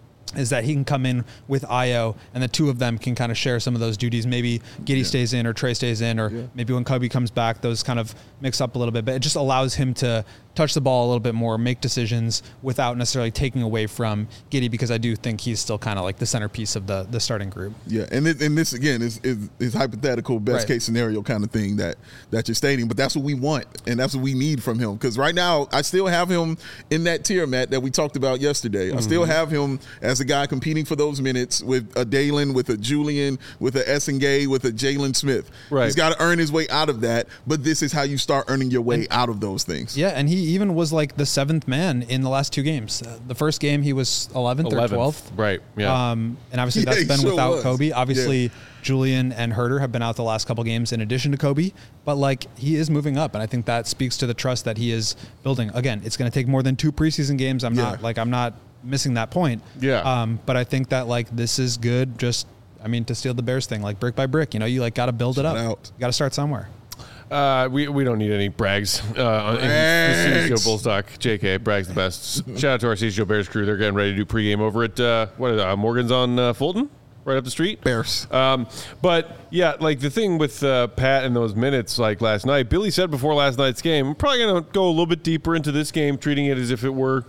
is that he can come in with Ayo, and the two of them can kind of share some of those duties. Maybe Giddey yeah. stays in or Trey stays in, or yeah. maybe when Kobe comes back, those kind of mix up a little bit. But it just allows him to touch the ball a little bit more, make decisions without necessarily taking away from Giddey, because I do think he's still kind of like the centerpiece of the the starting group. Yeah, and it, and this again is, is is hypothetical best right. case scenario kind of thing that that you're stating, but that's what we want and that's what we need from him. Because right now I still have him in that tier, Matt, that we talked about yesterday. Mm-hmm. I still have him as a guy competing for those minutes with a Dalen, with a Julian, with a Essengay, with a Jalen Smith. Right. He's got to earn his way out of that, but this is how you start earning your way and, out of those things. Yeah, and he even was like the seventh man in the last two games. Uh, the first game he was eleventh, eleventh or twelfth. Right, yeah. Um, and obviously yeah, that's been sure without was. Kobe. Obviously yeah. Julian and Herter have been out the last couple games in addition to Kobe, but like he is moving up, and I think that speaks to the trust that he is building. Again, it's going to take more than two preseason games. I'm yeah. not like I'm not missing that point. Yeah. Um, but I think that like this is good. Just I mean to steal the Bears thing, like brick by brick. You know, you like got to build it Shout up. Out. You got to start somewhere. Uh, we we don't need any brags uh, on the C C G O Bulls talk. J K, brag's the best. Shout out to our C C G O Bears crew. They're getting ready to do pregame over at uh, what is it, uh, Morgan's on uh, Fulton, right up the street. Bears. Um, but yeah, like the thing with uh, Pat and those minutes, like last night, Billy said before last night's game, I'm probably gonna go a little bit deeper into this game, treating it as if it were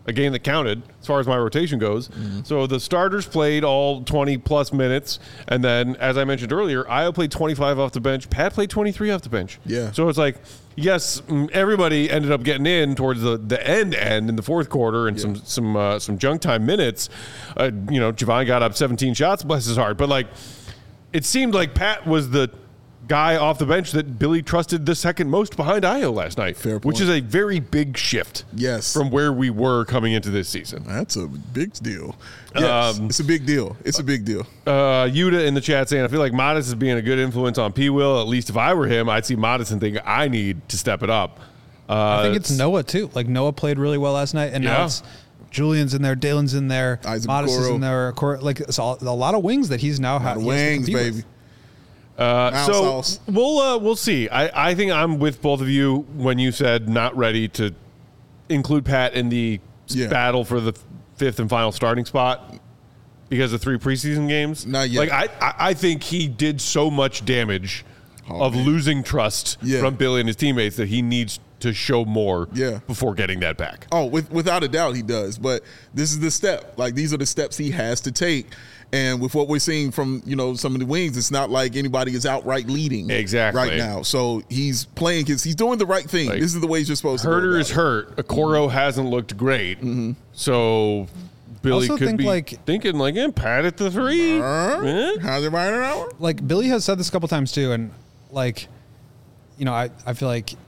a game that counted as far as my rotation goes. Mm-hmm. So the starters played all twenty plus minutes, and then as I mentioned earlier, Ayo played twenty-five off the bench. Pat played twenty-three off the bench. Yeah. So it's like, yes, everybody ended up getting in towards the, the end end in the fourth quarter and yeah. some some uh, some junk time minutes. Uh, you know, Javon got up seventeen shots, bless his heart. But like, it seemed like Pat was the guy off the bench that Billy trusted the second most behind Ayo last night, Fair point. Which is a very big shift. Yes. From where we were coming into this season. That's a big deal. Yes, um, it's a big deal. It's a big deal. Uh, Yuta in the chat saying, I feel like Modest is being a good influence on P. Will. At least if I were him, I'd see Modest and think I need to step it up. Uh, I think it's Noah too. Like Noah played really well last night, and yeah. now it's Julian's in there, Dalen's in there, Isaac Modest Okoro. is in there. Like it's all, a lot of wings that he's now having. Wings, baby. With. Uh, so sauce. we'll uh, we'll see. I, I think I'm with both of you when you said not ready to include Pat in the yeah. battle for the fifth and final starting spot because of three preseason games. Not yet. Like I, I, I think he did so much damage oh, of man. losing trust yeah. from Billy and his teammates that he needs to show more yeah. before getting that back. Oh, with, without a doubt he does. But this is the step. Like these are the steps he has to take. And with what we're seeing from, you know, some of the wings, it's not like anybody is outright leading exactly right now. So he's playing his, he's doing the right thing. Like, this is the way you're supposed Herter to. Herter is hurt. Okoro hasn't looked great. Mm-hmm. So Billy also could think be like, thinking like, eh, Pat at the three. Uh, eh? How's it right now? Like Billy has said this a couple times too, and like, you know, I, I feel like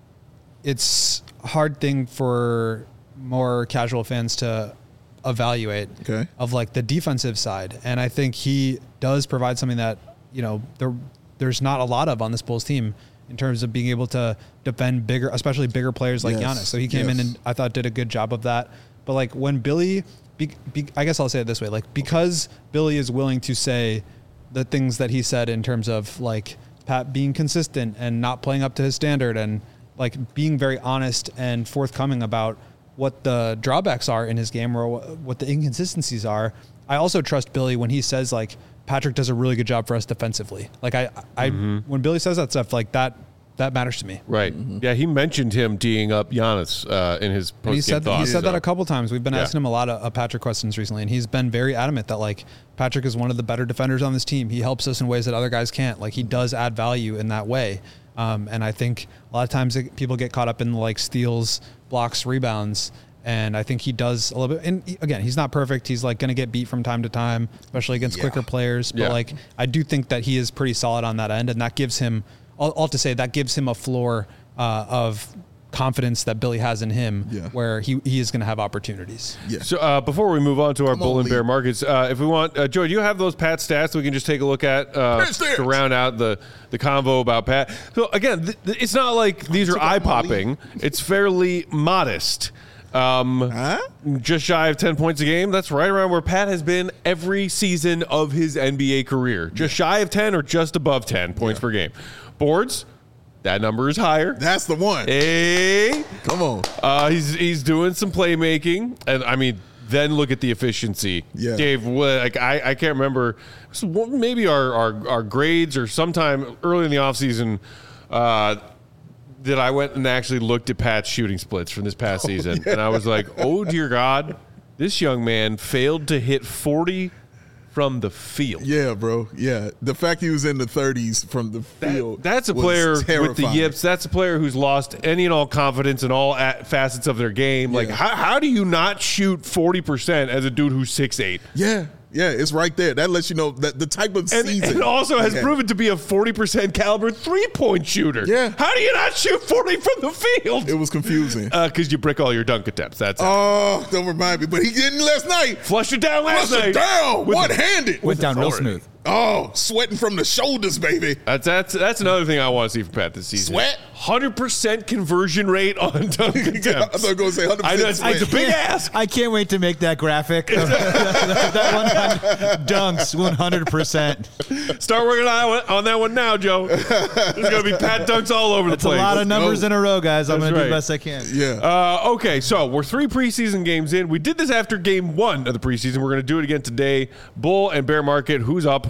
it's a hard thing for more casual fans to evaluate okay. of like the defensive side. And I think he does provide something that, you know, there there's not a lot of on this Bulls team in terms of being able to defend bigger, especially bigger players like yes. Giannis. So he came yes. in and I thought did a good job of that. But like when Billy, be, be, I guess I'll say it this way, like because Billy is willing to say the things that he said in terms of like Pat being consistent and not playing up to his standard and like being very honest and forthcoming about what the drawbacks are in his game or what the inconsistencies are. I also trust Billy when he says like Patrick does a really good job for us defensively. Like I, I, mm-hmm. when Billy says that stuff, like that, that matters to me. Right. Mm-hmm. Yeah. He mentioned him teeing up Giannis uh, in his post-game he said, thoughts. He said so. that a couple times. We've been yeah. asking him a lot of uh, Patrick questions recently, and he's been very adamant that like Patrick is one of the better defenders on this team. He helps us in ways that other guys can't. Like he does add value in that way. Um, and I think a lot of times it, people get caught up in like steals, blocks, rebounds. And I think he does a little bit. And again, he's not perfect. He's like going to get beat from time to time, especially against yeah. quicker players. But yeah. like, I do think that he is pretty solid on that end. And that gives him, all, all to say, that gives him a floor uh, of confidence that Billy has in him yeah. where he, he is going to have opportunities. Yeah. So uh, before we move on to our Come bull on, and bear Lee. markets, uh, if we want, uh, Joey, do you have those Pat stats that we can just take a look at uh, to round out the, the convo about Pat? So again, th- th- it's not like these are eye-popping. It's fairly modest. Um, huh? Just shy of ten points a game. That's right around where Pat has been every season of his N B A career. Just shy of ten or just above ten points yeah. per game. Boards, that number is higher. That's the one. Hey, come on. Uh, he's he's doing some playmaking, and I mean, then look at the efficiency. Yeah, Dave. Like I, I can't remember. Maybe our, our our grades or sometime early in the offseason, uh that I went and actually looked at Pat's shooting splits from this past oh, season. Yeah. And I was like, oh, dear God, this young man failed to hit forty from the field. Yeah, bro. Yeah. The fact he was in the thirties from the field. That, that's a player terrifying. with the yips. That's a player who's lost any and all confidence in all facets of their game. Yeah. Like, how, how do you not shoot forty percent as a dude who's six eight? Yeah. Yeah, it's right there. That lets you know that the type of and, season. And also has yeah. proven to be a forty percent caliber three-point shooter. Yeah. How do you not shoot forty from the field? It was confusing. Because uh, you brick all your dunk attempts. That's Oh, it. Don't remind me. But he didn't last night. Flushed it down last Flushed night. it down. With one-handed. Went down authority. real smooth. Oh, sweating from the shoulders, baby. That's that's that's another thing I want to see from Pat this season. Sweat? one hundred percent conversion rate on dunk attempts. I thought you were going to say one hundred percent I know, it's, sweat. it's a big ask. I can't wait to make that graphic. that, that one hundred dunks, one hundred percent. Start working on, on that one now, Joe. There's going to be Pat dunks all over That's the place. That's a lot of numbers go. in a row, guys. I'm going right. to do the best I can. Yeah. Uh, okay, so we're three preseason games in. We did this after game one of the preseason. We're going to do it again today. Bull and bear market. Who's up?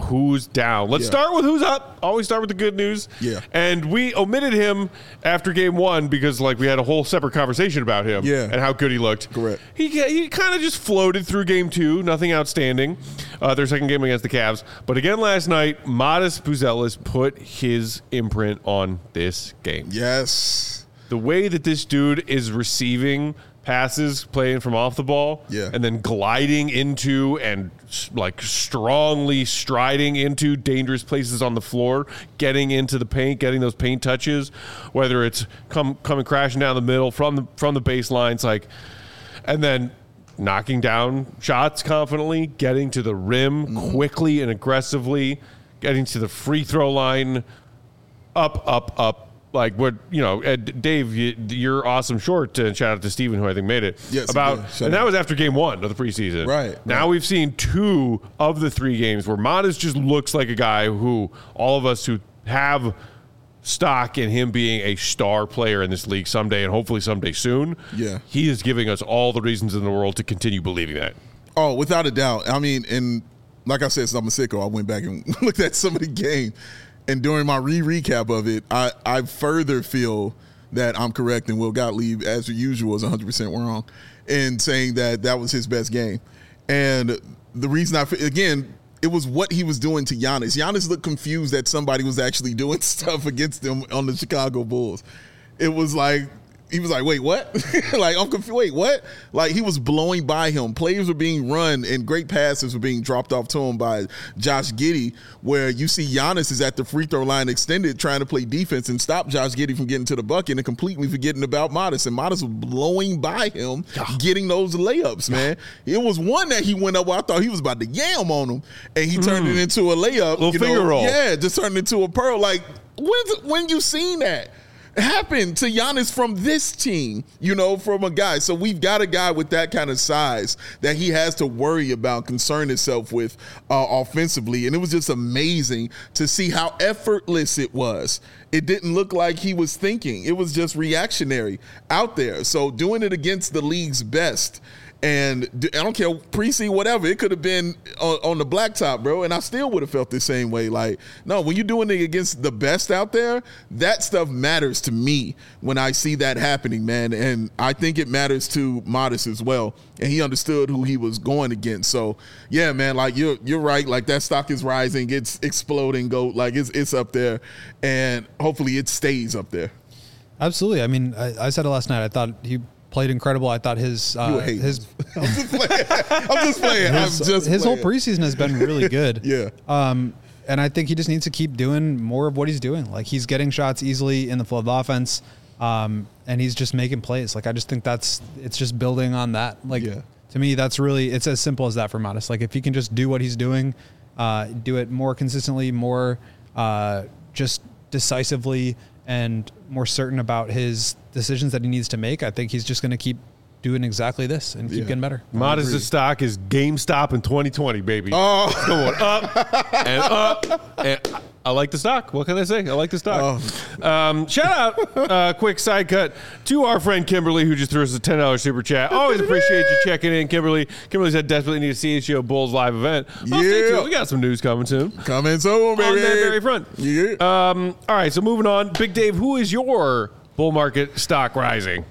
who's down. Let's Yeah. start with who's up. Always start with the good news. Yeah. And we omitted him after game one because, like, we had a whole separate conversation about him Yeah. and how good he looked. Correct. He he kind of just floated through game two. Nothing outstanding. Uh, their second game against the Cavs. But again last night, Modest Buzelis put his imprint on this game. Yes. The way that this dude is receiving passes, playing from off the ball, Yeah. and then gliding into and like strongly striding into dangerous places on the floor, getting into the paint, getting those paint touches, whether it's come coming crashing down the middle from the from the baseline, it's like, and then knocking down shots confidently, getting to the rim Mm-hmm. quickly and aggressively, getting to the free throw line, up, up, up. Like what, you know, Ed, Dave, you, your awesome short, and shout out to Steven, who I think made it. Yes, about, yeah, shout and that out. was after game one of the preseason. Right, Now right. we've seen two of the three games where Modest just looks like a guy who all of us who have stock in him being a star player in this league someday and hopefully someday soon. Yeah. He is giving us all the reasons in the world to continue believing that. Oh, without a doubt. I mean, and like I said, since I'm a sicko, I went back and looked at some of the game. And during my re-recap of it, I, I further feel that I'm correct and Will Gottlieb, as usual, is one hundred percent wrong in saying that that was his best game. And the reason I, again, it was what he was doing to Giannis. Giannis looked confused that somebody was actually doing stuff against him on the Chicago Bulls. It was like, he was like, wait, what? Like, I'm confused. Wait, what? Like, he was blowing by him. Players were being run, and great passes were being dropped off to him by Josh Giddey, where you see Giannis is at the free throw line extended trying to play defense and stop Josh Giddey from getting to the bucket and completely forgetting about Modest. And Modest was blowing by him, getting those layups, man. It was one that he went up where I thought he was about to yam on him, and he turned it into a layup. Little you finger know? roll. Yeah, just turned into a pearl. Like, when's, when you seen that happen to Giannis from this team, you know, from a guy? So we've got a guy with that kind of size that he has to worry about, concern himself with uh, offensively. And it was just amazing to see how effortless it was. It didn't look like he was thinking. It was just reactionary out there. So doing it against the league's best. And I don't care, pre-season, whatever. It could have been on, on the blacktop, bro, and I still would have felt the same way. Like, no, when you're doing it against the best out there, that stuff matters to me when I see that happening, man. And I think it matters to Modest as well. And he understood who he was going against. So, yeah, man, like, you're you're right. Like, that stock is rising. It's exploding, GOAT. Like, it's, it's up there. And hopefully it stays up there. Absolutely. I mean, I, I said it last night. I thought he played incredible. I thought his uh, his I'm just playing. I'm just playing. his, I'm just his whole playing. preseason has been really good. Yeah. Um, and I think he just needs to keep doing more of what he's doing. Like, he's getting shots easily in the flow of offense, um, and he's just making plays. Like, I just think that's it's just building on that. Like, Yeah. to me, that's really it's as simple as that for Modest. Like, if he can just do what he's doing, uh, do it more consistently, more uh, just decisively, and more certain about his decisions that he needs to make, I think he's just going to keep doing exactly this and keep Yeah. getting better. Modest's stock is GameStop in twenty twenty, baby. Oh. It's going up and up. And I like the stock. What can I say? I like the stock. Oh. Um, shout out, uh, quick side cut to our friend Kimberly, who just threw us a ten dollars super chat. Always appreciate you checking in, Kimberly. Kimberly said desperately need to see a C H G O Bulls live event. Well, stay Yeah. tuned. We got some news coming soon. Coming soon, baby. On that very front. Yeah. Um, all right, so moving on. Big Dave, who is your bull market stock rising?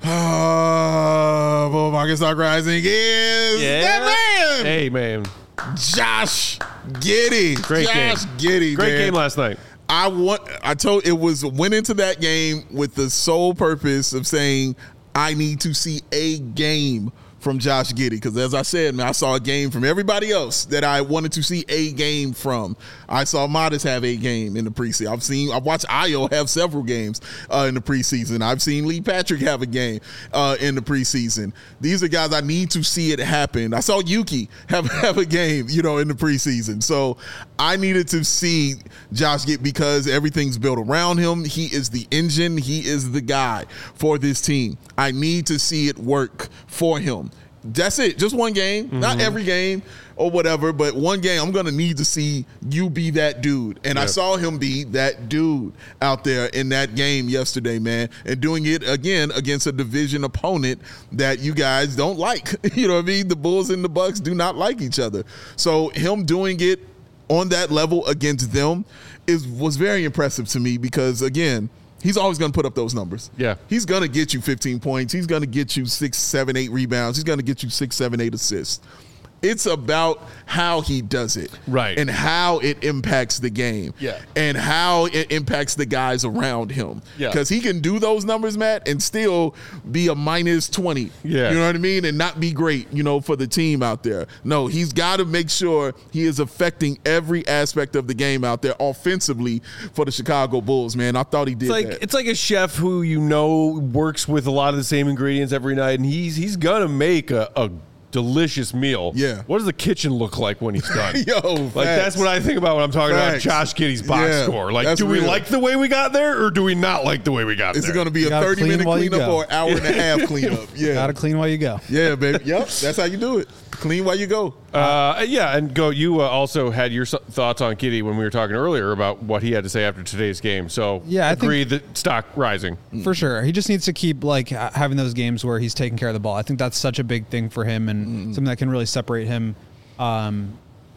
Uh, bull market stock rising is that man, Hey, man. Josh Giddey. Great Josh game. Giddey. Great man. game last night. I want. I told it was went into that game with the sole purpose of saying I need to see a game from Josh Giddey, because as I said, man, I saw a game from everybody else that I wanted to see a game from. I saw Modest have a game in the preseason. I've seen, I've watched Ayo have several games uh, in the preseason. I've seen Lee Patrick have a game uh, in the preseason. These are guys I need to see it happen. I saw Yuki have, have a game, you know, in the preseason. So I needed to see Josh get, because everything's built around him. He is the engine. He is the guy for this team. I need to see it work for him. That's it. Just one game, mm-hmm. Not every game or whatever, but one game. I'm going to need to see you be that dude. And yep. I saw him be that dude out there in that game yesterday, man, and doing it again against a division opponent that you guys don't like. You know what I mean? The Bulls and the Bucks do not like each other. So him doing it on that level against them is was very impressive to me because, again, he's always going to put up those numbers. Yeah. He's going to get you fifteen points. He's going to get you six, seven, eight rebounds. He's going to get you six, seven, eight assists. It's about how he does it. Right. And how it impacts the game. Yeah. And how it impacts the guys around him. Yeah. Because he can do those numbers, Matt, and still be a minus twenty. Yeah. You know what I mean? And not be great, you know, for the team out there. No, he's got to make sure he is affecting every aspect of the game out there offensively for the Chicago Bulls, man. I thought he did It's like that. it's like a chef who you know works with a lot of the same ingredients every night, and he's he's gonna make a, a delicious meal. Yeah. What does the kitchen look like when he's done? Yo, like facts. that's what I think about when I'm talking Facts. about Josh Giddey's box Yeah, score. Like, that's do we real. like the way we got there, or do we not like the way we got Is there? it going to be a gotta thirty clean minute while you cleanup go. or an hour and a half cleanup? Yeah. Gotta clean while you go. Yeah, baby. Yep. That's how you do it. Clean while you go. Uh, yeah, and go. You uh, also had your s- thoughts on Giddey when we were talking earlier about what he had to say after today's game. So Yeah, I think- agree that stock rising. For sure. He just needs to keep like ha- having those games where he's taking care of the ball. I think that's such a big thing for him and something that can really separate him um,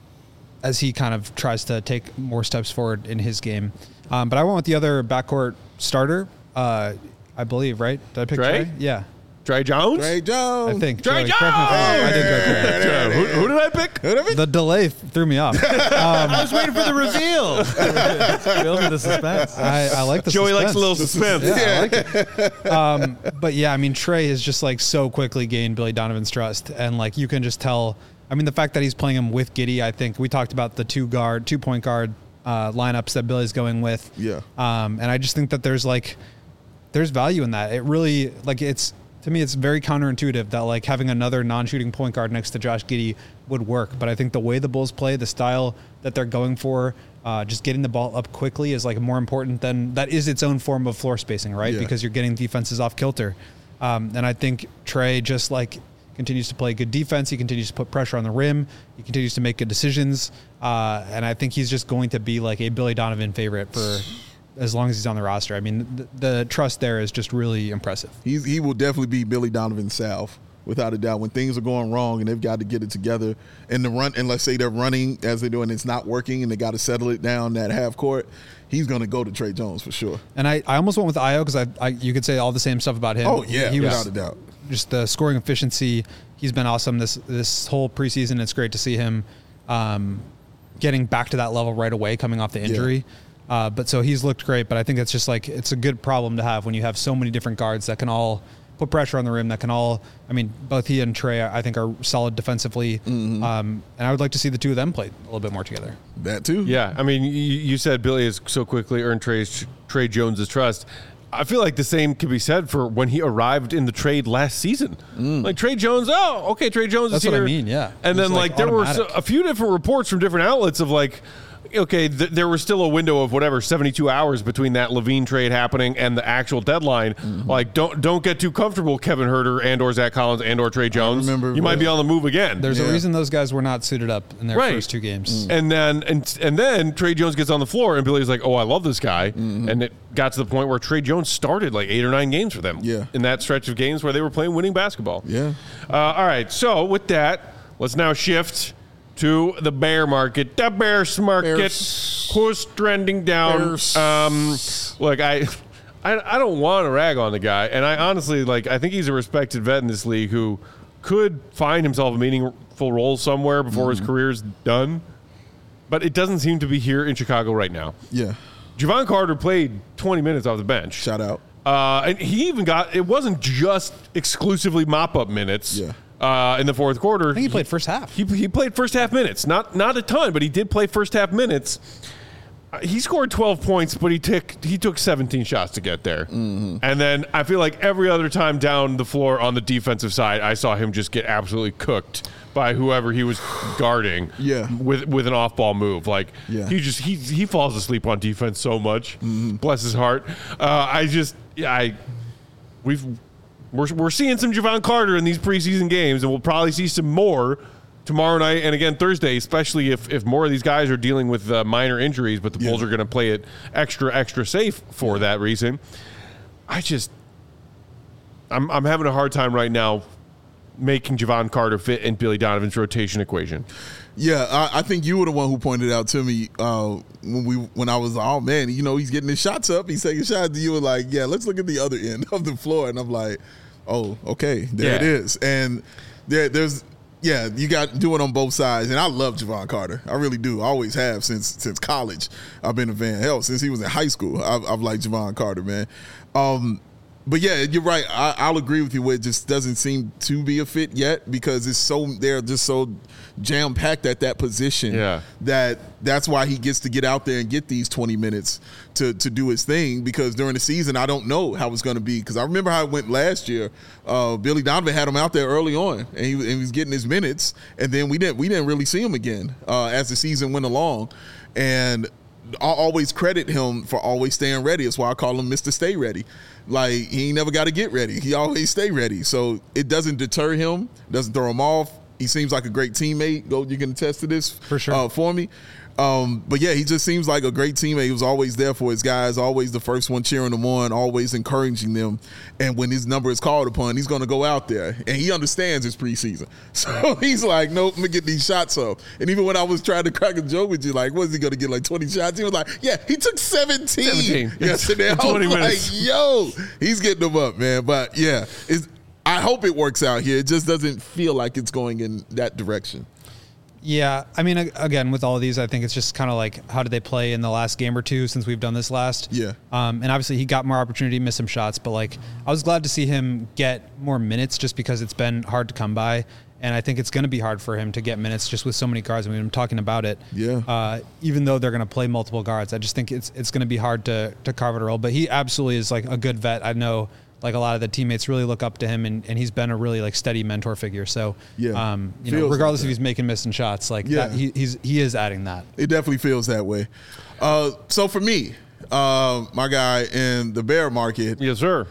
as he kind of tries to take more steps forward in his game. Um, but I went with the other backcourt starter, uh, I believe, right? Did I pick Trey? Trey? Yeah. Trey Jones. Trey Jones. I think. Trey Joey, correct me if I'm wrong. I did go Trey. Yeah, who, who did I pick? The delay threw me off. I was waiting for the reveal. Building the suspense. I, I like the Joey likes a little suspense. suspense. Yeah, I like it. Um, but yeah, I mean, Trey has just like so quickly gained Billy Donovan's trust, and like you can just tell. I mean, the fact that he's playing him with Giddey, I think we talked about the two guard, two point guard uh, lineups that Billy's going with. Yeah. Um, and I just think that there's like, there's value in that. It really like it's to me, it's very counterintuitive that like having another non-shooting point guard next to Josh Giddey would work. But I think the way the Bulls play, the style that they're going for, uh, just getting the ball up quickly is like more important than that is its own form of floor spacing, right? Yeah. Because you're getting defenses off kilter. Um, and I think Trey just like continues to play good defense. He continues to put pressure on the rim. He continues to make good decisions. Uh, and I think he's just going to be like a Billy Donovan favorite for as long as he's on the roster. I mean, the, the trust there is just really impressive. He's, he will definitely be Billy Donovan's salve, without a doubt. When things are going wrong and they've got to get it together, and the run, and let's say they're running as they're doing, it's not working, and they got to settle it down that half court, he's going to go to Trey Jones for sure. And I, I almost went with Ayo because I, I you could say all the same stuff about him. Oh yeah, he without was a doubt. just the scoring efficiency. He's been awesome this this whole preseason. It's great to see him um, getting back to that level right away, coming off the injury. Yeah. Uh, but so he's looked great. But I think it's just like it's a good problem to have when you have so many different guards that can all put pressure on the rim. That can all. I mean, both he and Trey, I think, are solid defensively. Mm-hmm. Um, and I would like to see the two of them play a little bit more together. That too. Yeah, I mean, you, you said Billy has so quickly earned Trey's, Trey Jones' trust. I feel like the same could be said for when he arrived in the trade last season. Mm. Like Trey Jones, oh, okay, Trey Jones That's is here. what I mean, yeah. And It then was, like, like, there were automatic. so, a few different reports from different outlets of like, okay, th- there was still a window of whatever seventy-two hours between that Levine trade happening and the actual deadline. Mm-hmm. Like, don't don't get too comfortable, Kevin Huerter and or Zach Collins and or Trey Jones. remember, you might be yeah. on the move again. There's Yeah. a reason those guys were not suited up in their Right. first two games. And then and and then Trey Jones gets on the floor and Billy's like, oh, I love this guy. Mm-hmm. And it got to the point where Trey Jones started like eight or nine games for them. Yeah. In that stretch of games where they were playing winning basketball. Yeah. Uh, all right. So with that, let's now shift to the bear market. The bears market. Bears. Who's trending down? Bears. Um, look, I. I, I don't want to rag on the guy, and I honestly like. I think he's a respected vet in this league who could find himself a meaningful role somewhere before Mm-hmm. his career's done. But it doesn't seem to be here in Chicago right now. Yeah. Javon Carter played twenty minutes off the bench. Shout out. Uh, and he even got, it wasn't just exclusively mop-up minutes Yeah. uh, in the fourth quarter. I think he played first half. He, he played first half minutes. Not not a ton, but he did play first half minutes. Uh, He scored twelve points, but he took he took seventeen shots to get there. Mm-hmm. And then I feel like every other time down the floor on the defensive side, I saw him just get absolutely cooked by whoever he was guarding. Yeah. with with an off ball move. Like Yeah. he just he he falls asleep on defense so much. Bless his heart. Uh, I just yeah, I we've we're we're seeing some Javon Carter in these preseason games, and we'll probably see some more tomorrow night and again Thursday, especially if, if more of these guys are dealing with uh, minor injuries, but the Yeah. Bulls are going to play it extra, extra safe for that reason. I just, I'm, I'm having a hard time right now making Javon Carter fit in Billy Donovan's rotation equation. Yeah, I, I think you were the one who pointed out to me uh, when we when I was, oh man, you know, he's getting his shots up, he's taking shots. You were like, yeah, let's look at the other end of the floor, and I'm like, oh, okay, there yeah. it is, and there, there's, yeah, you got to do it on both sides, and I love Javon Carter, I really do, I always have since since college. I've been a fan, hell, since he was in high school, I've, I've liked Javon Carter, man. Um, But yeah, you're right. I, I'll agree with you. Where it just doesn't seem to be a fit yet because it's so they're just so jam packed at that position. Yeah. That that's why he gets to get out there and get these twenty minutes to to do his thing. Because during the season, I don't know how it's going to be. Because I remember how it went last year. Uh, Billy Donovan had him out there early on, and he, and he was getting his minutes. And then we didn't we didn't really see him again uh, as the season went along. And I always credit him for always staying ready. That's why I call him Mister Stay Ready. Like, he ain't never got to get ready. He always stay ready. So it doesn't deter him, doesn't throw him off. He seems like a great teammate. Go, you can attest to this for sure uh, for me. Um, but yeah, he just seems like a great teammate. He was always there for his guys, always the first one cheering them on, always encouraging them. And when his number is called upon, he's going to go out there. And he understands his preseason. So he's like, nope, I'm going to get these shots up. And even when I was trying to crack a joke with you, like, what is he going to get, like twenty shots? He was like, yeah, he took seventeen, seventeen. yesterday. I was like, yo, he's getting them up, man. But yeah, it's, I hope it works out here. It just doesn't feel like it's going in that direction. Yeah, I mean, again, with all of these, I think it's just kind of like, how did they play in the last game or two since we've done this last? Yeah. Um, and obviously, he got more opportunity, missed some shots, but like, I was glad to see him get more minutes just because it's been hard to come by. And I think it's going to be hard for him to get minutes just with so many guards. I mean, I'm talking about it. Yeah. Uh, even though they're going to play multiple guards, I just think it's it's going to be hard to to carve out a role. But he absolutely is like a good vet. I know. Like a lot of the teammates really look up to him, and, and he's been a really like steady mentor figure. So, yeah, um, you know, regardless like if he's making missing shots, like yeah. that, he, he's he is adding that. It definitely feels that way. Uh, so for me, uh, my guy in the bear market, yes, sir,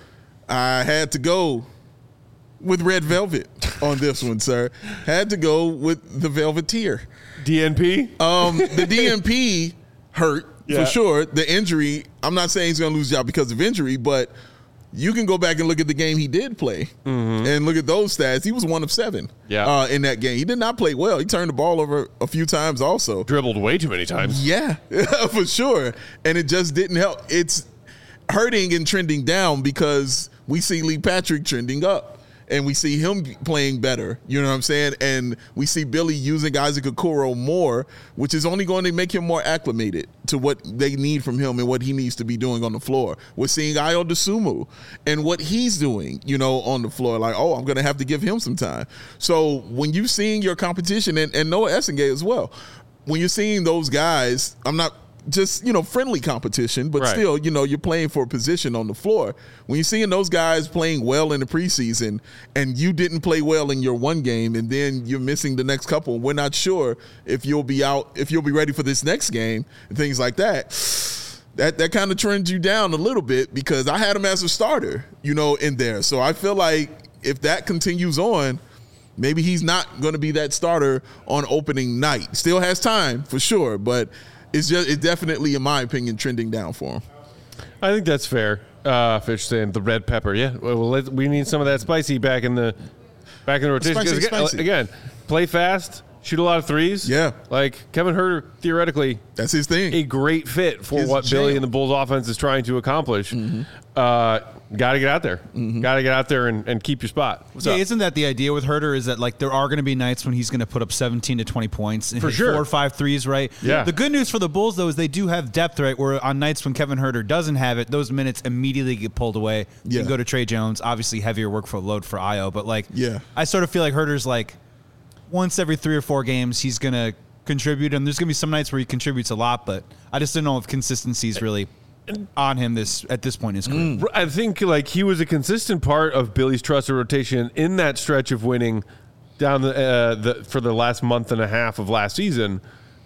I had to go with Red Velvet on this one, sir. Had to go with the Velveteer. D N P. Um, the D N P hurt yeah. for sure. The injury. I'm not saying he's going to lose his job because of injury, but you can go back and look at the game he did play mm-hmm. and look at those stats. He was one of seven yeah. uh, in that game. He did not play well. He turned the ball over a few times also. Dribbled way too many times. Yeah, for sure. And it just didn't help. It's hurting and trending down because we see Lee Patrick trending up. And we see him playing better, you know what I'm saying? And we see Billy using Isaac Okoro more, which is only going to make him more acclimated to what they need from him and what he needs to be doing on the floor. We're seeing Ayo Dosunmu and what he's doing, you know, on the floor. Like, oh, I'm going to have to give him some time. So when you're seeing your competition, and, and Noah Essengate as well, when you're seeing those guys, I'm not just, you know, friendly competition, but right. still, you know, you're playing for a position on the floor. When you're seeing those guys playing well in the preseason and you didn't play well in your one game and then you're missing the next couple, we're not sure if you'll be out, if you'll be ready for this next game and things like that. That that kind of trends you down a little bit because I had him as a starter, you know, in there. So I feel like if that continues on, maybe he's not going to be that starter on opening night. Still has time for sure, but It's just, it's definitely, in my opinion, trending down for him. I think that's fair. Uh, Fish saying the red pepper. Yeah, well, let's, we need some of that spicy back in the back in the rotation. Spicy, again, spicy. again, play fast, shoot a lot of threes. Yeah, like Kevin Huerter, theoretically, that's his thing. A great fit for his what jam. Billy and the Bulls offense is trying to accomplish. Mm-hmm. Uh, Got to get out there. Mm-hmm. Got to get out there and, and keep your spot. What's yeah, up? Isn't that the idea with Huerter? Is that like there are going to be nights when he's going to put up seventeen to twenty points and for hit sure. four or five threes, right? Yeah. The good news for the Bulls though is they do have depth, right? Where on nights when Kevin Huerter doesn't have it, those minutes immediately get pulled away. You yeah. can go to Trey Jones. Obviously, heavier work for load for Ayo, but like, yeah. I sort of feel like Huerter's like once every three or four games he's going to contribute, and there's going to be some nights where he contributes a lot, but I just don't know if consistency is really on him this at this point in his career. Mm. I think like he was a consistent part of Billy's trusted rotation in that stretch of winning down the, uh, the for the last month and a half of last season.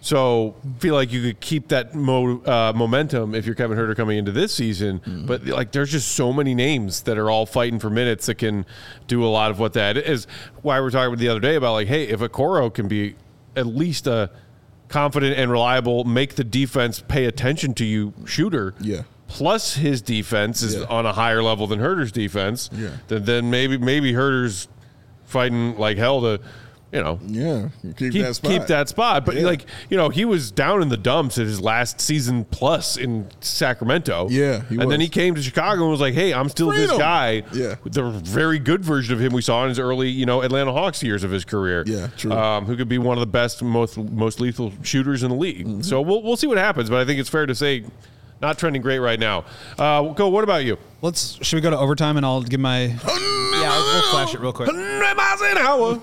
So feel like you could keep that mo- uh, momentum if you're Kevin Huerter coming into this season. Mm. But like there's just so many names that are all fighting for minutes that can do a lot of what that is. Why we're talking the other day about like, hey, if Okoro can be at least a confident and reliable, make the defense pay attention to you shooter. Yeah. Plus his defense is yeah. on a higher level than Huerter's defense. Yeah. Then, then maybe maybe Huerter's fighting like hell to, you know, yeah, keep, keep that spot. keep that spot. But Yeah. like, you know, he was down in the dumps at his last season plus in Sacramento. Yeah, he and was. then he came to Chicago and was like, "Hey, I'm still Freedom. this guy." Yeah. the very good version of him we saw in his early, you know, Atlanta Hawks years of his career. Yeah, true. Um, who could be one of the best, most most lethal shooters in the league. Mm-hmm. So we'll we'll see what happens. But I think it's fair to say, not trending great right now. Uh, go. What about you? Let's. Should we go to overtime and I'll give my. Yeah, I'll, we'll flash it real quick. one hundred miles an hour.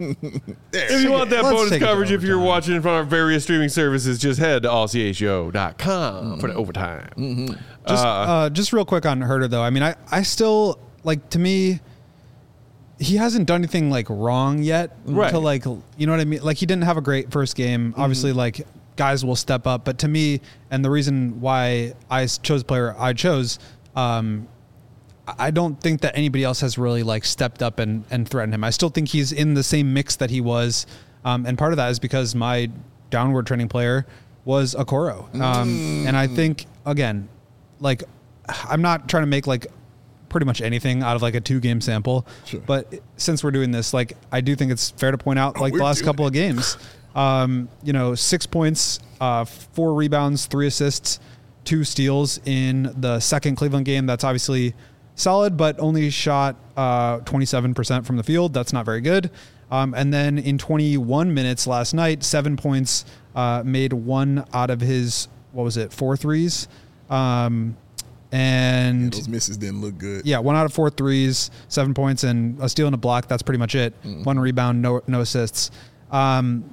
If you want that Let's bonus take it to coverage, if you're overtime. watching from our various streaming services, just head to all c a show dot com for the overtime. Just, Uh, uh, just real quick on Herter though. I mean, I, I still like to me. He hasn't done anything like wrong yet. Right. To like, you know what I mean? Like he didn't have a great first game. Obviously, like guys will step up. But to me, and the reason why I chose the player I chose, um, I don't think that anybody else has really like stepped up and, and threatened him. I still think he's in the same mix that he was. Um, and part of that is because my downward trending player was Okoro. Um, and I think, again, like I'm not trying to make like pretty much anything out of like a two game sample, Sure. but since we're doing this, like I do think it's fair to point out like We're the last doing couple of games, um, you know, six points, uh, four rebounds, three assists, two steals in the second Cleveland game. That's obviously solid, but only shot uh, twenty-seven percent from the field. That's not very good. Um, and then in twenty-one minutes last night, seven points, uh, made one out of his, what was it, four threes. Um, and Those misses didn't look good. yeah, one out of four threes, seven points, and a steal and a block. That's pretty much it. Mm. One rebound, no no assists. Um,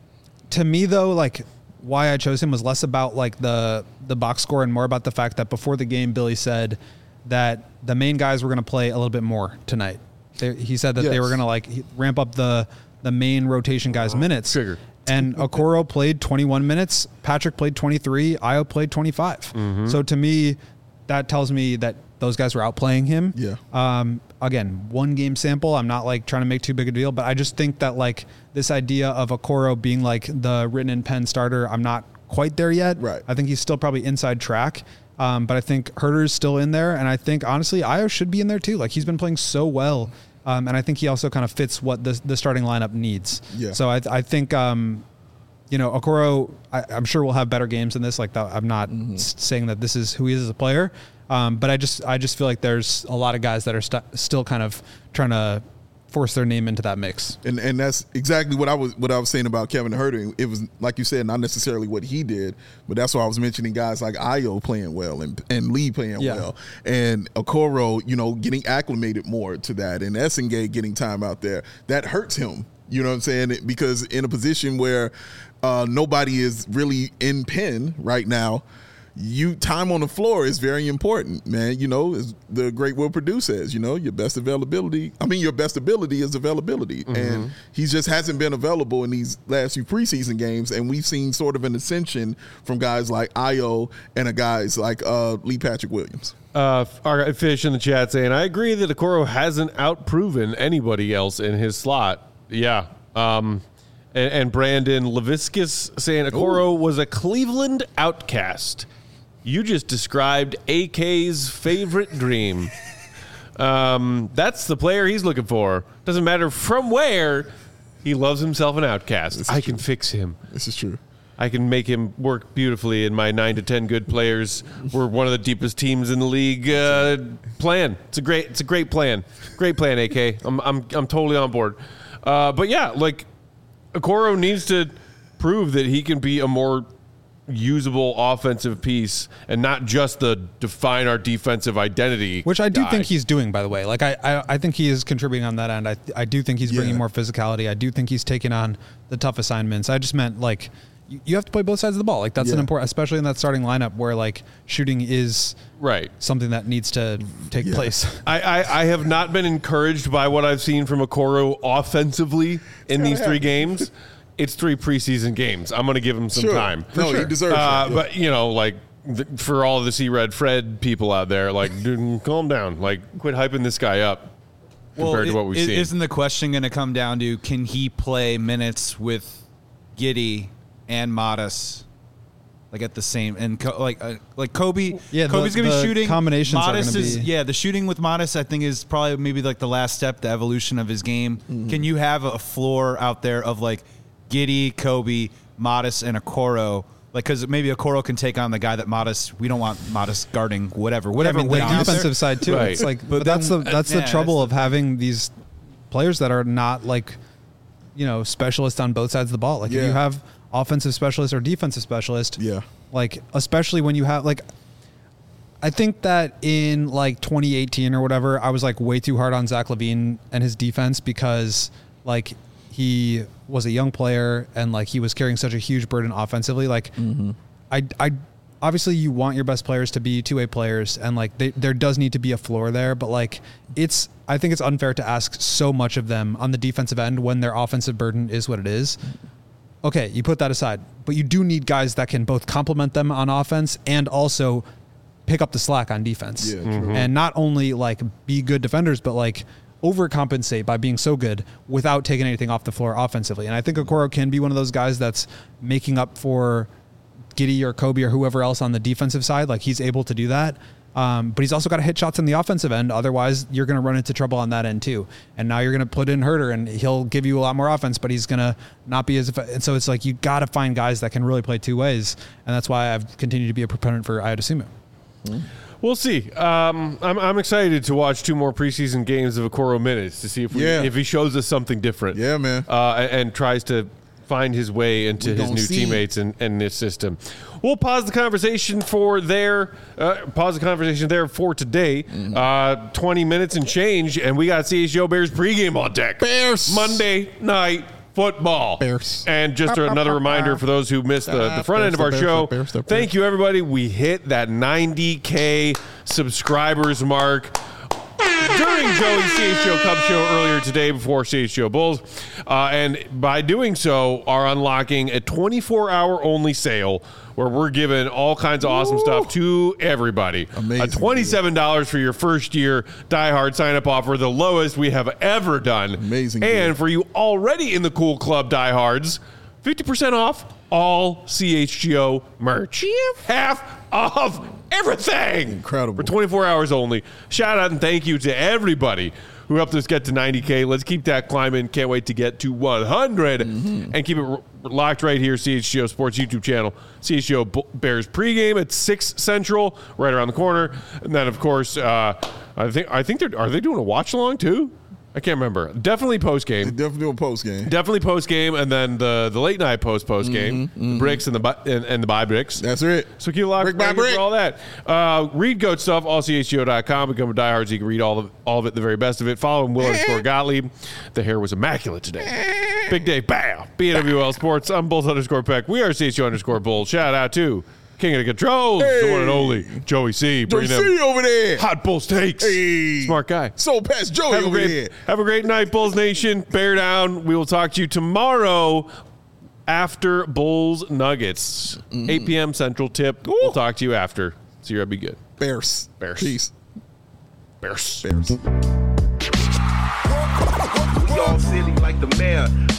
to me, though, like why I chose him was less about like the the box score and more about the fact that before the game, Billy said that the main guys were going to play a little bit more tonight. They, he said that they Yes. were going to like ramp up the the main rotation guys' minutes. trigger. And Okoro played twenty-one minutes. Patrick played twenty-three. Io played twenty-five. So to me, that tells me that those guys were outplaying him. Yeah. Um, again, one game sample. I'm not like trying to make too big a deal, but I just think that like this idea of Okoro being like the written in pen starter, I'm not quite there yet. Right. I think he's still probably inside track. Um, but I think Herter's still in there. And I think honestly, Io should be in there too. Like he's been playing so well. Um, and I think he also kind of fits what the, the starting lineup needs. Yeah. So I, I think, um, you know, Okoro, I, I'm sure we'll have better games than this. Like that, I'm not Mm-hmm. s- saying that this is who he is as a player. Um, but I just, I just feel like there's a lot of guys that are st- still kind of trying to force their name into that mix. And and that's exactly what I was what I was saying about Kevin Herter. It was like you said, not necessarily what he did, but that's why I was mentioning guys like Io playing well and and Lee playing Yeah. well, and Okoro, you know, getting acclimated more to that, and Essengate getting time out there. That hurts him. You know what I'm saying? Because in a position where uh, nobody is really in pen right now, you time on the floor is very important, man. You know, as the great Will Perdue says, you know, your best availability. I mean, your best ability is availability, and he just hasn't been available in these last few preseason games. And we've seen sort of an ascension from guys like Io and a guys like uh, Lee Patrick Williams. Uh, our fish in the chat saying, I agree that Okoro hasn't outproven anybody else in his slot. Yeah. Um, and, and Brandon Leviscus saying Okoro was a Cleveland outcast. You just described A K's favorite dream. Um, that's the player he's looking for. Doesn't matter from where, he loves himself an outcast. I can fix him. This is true. I can make him work beautifully in my nine to ten good players. We're one of the deepest teams in the league. Uh, plan. It's a great. It's a great plan. Great plan, A K. I'm I'm I'm totally on board. Uh, but yeah, like Okoro needs to prove that he can be a more usable offensive piece and not just the define our defensive identity. Which I do guy. think he's doing, by the way. Like I, I, I think he is contributing on that end. I, I do think he's bringing Yeah. more physicality. I do think he's taking on the tough assignments. I just meant like you, you have to play both sides of the ball. Like that's an Yeah. important, especially in that starting lineup where like shooting is right. something that needs to take Yeah. place. I, I, I have not been encouraged by what I've seen from Okoro offensively in these three games. It's three preseason games. I'm going to give him some Sure. time. No, he deserves Uh, it. Yeah. But, you know, like, th- for all the C-Red Fred people out there, like, dude, calm down. Like, quit hyping this guy up compared to i- what we've i- seen. Isn't the question going to come down to can he play minutes with Giddey and Modest like at the same and co- like uh, like Kobe. Yeah, Kobe's the, gonna the be shooting. Combinations Modest are gonna is be. yeah. The shooting with Modest, I think, is probably maybe like the last step, the evolution of his game. Mm-hmm. Can you have a floor out there of like Giddey, Kobe, Modest, and Okoro? Like, because maybe Okoro can take on the guy that Modest. We don't want Modest guarding whatever, whatever. I mean, way the out there. defensive side too. Right. It's like, But but, that's the then- that's uh, the yeah, trouble that's of having these players that are not like, you know, specialists on both sides of the ball. Like Yeah. if you have offensive specialist or defensive specialist, Yeah. like especially when you have like, I think that in like twenty eighteen or whatever, I was like way too hard on Zach LaVine and his defense because like he was a young player and like he was carrying such a huge burden offensively. Like I, I, obviously you want your best players to be two-way players and like they, there does need to be a floor there, but like it's, I think it's unfair to ask so much of them on the defensive end when their offensive burden is what it is. Okay, you put that aside, but you do need guys that can both complement them on offense and also pick up the slack on defense. Yeah, true. And not only like be good defenders, but like overcompensate by being so good without taking anything off the floor offensively. And I think Okoro can be one of those guys that's making up for Giddey or Kobe or whoever else on the defensive side. Like he's able to do that. Um, but he's also got to hit shots on the offensive end. Otherwise, you're going to run into trouble on that end too. And now you're going to put in Herter, and he'll give you a lot more offense, but he's going to not be as. And so it's like you got to find guys that can really play two ways, and that's why I've continued to be a proponent for Ayo Dosunmu. We'll see. Um, I'm, I'm excited to watch two more preseason games of Okoro minutes to see if we, Yeah. if he shows us something different. Yeah, man. Uh, and, and tries to find his way into We his gon' new see. teammates and, and this system. We'll pause the conversation for there. Uh, pause the conversation there for today. Mm-hmm. Uh, twenty minutes and change, and we got C H G O Bears pregame on deck. Bears. Monday night football. Bears. And just another reminder for those who missed the, the front end of our Bears, show. Bears, Bears, Bears. Thank you, everybody. We hit that ninety K subscribers mark during Joey's C H G O Cub show earlier today before C H G O Bulls. Uh, and by doing so, are unlocking a twenty-four hour only sale where we're giving all kinds of awesome stuff to everybody. Amazing. A twenty-seven dollars for your first year diehard sign up offer, the lowest we have ever done. Amazing And deal. for you already in the cool club diehards, fifty percent off all C H G O merch. Half off everything. Incredible. For twenty-four hours only. Shout out and thank you to everybody who helped us get to ninety K. Let's keep that climbing. Can't wait to get to one hundred Mm-hmm. and keep it r- locked right here. C H G O Sports YouTube channel. C H G O B- Bears pregame at six Central, right around the corner. And then, of course, uh, I think I think they're are they doing a watch along too? I can't remember. Definitely post game. Definitely a post game. Definitely post game, and then the the late night post post game, Mm-hmm, the bricks and the bu- and, and the buy bricks. That's it. So keep locked Brick by right here brick. for all that. Uh, read Goat stuff, all C H G O dot com. Become a diehard so you can read all of all of it, the very best of it. Follow him, Will underscore Gottlieb. The hair was immaculate today. Big day, bam. B W L Sports. I'm Bulls underscore Peck. We are C H G O underscore Bulls. Shout out to King of the Controls, the one and only Joey C. Joey Bringing C them over there. hot Bulls takes. Hey. Smart guy. So past Joey Have a over great, there. have a great night, Bulls Nation. Bear down. We will talk to you tomorrow after Bulls Nuggets, eight p.m. Central tip. We'll talk to you after. So you'll be good. Bears. Bears. Peace. Bears. Bears. We all silly like the mayor.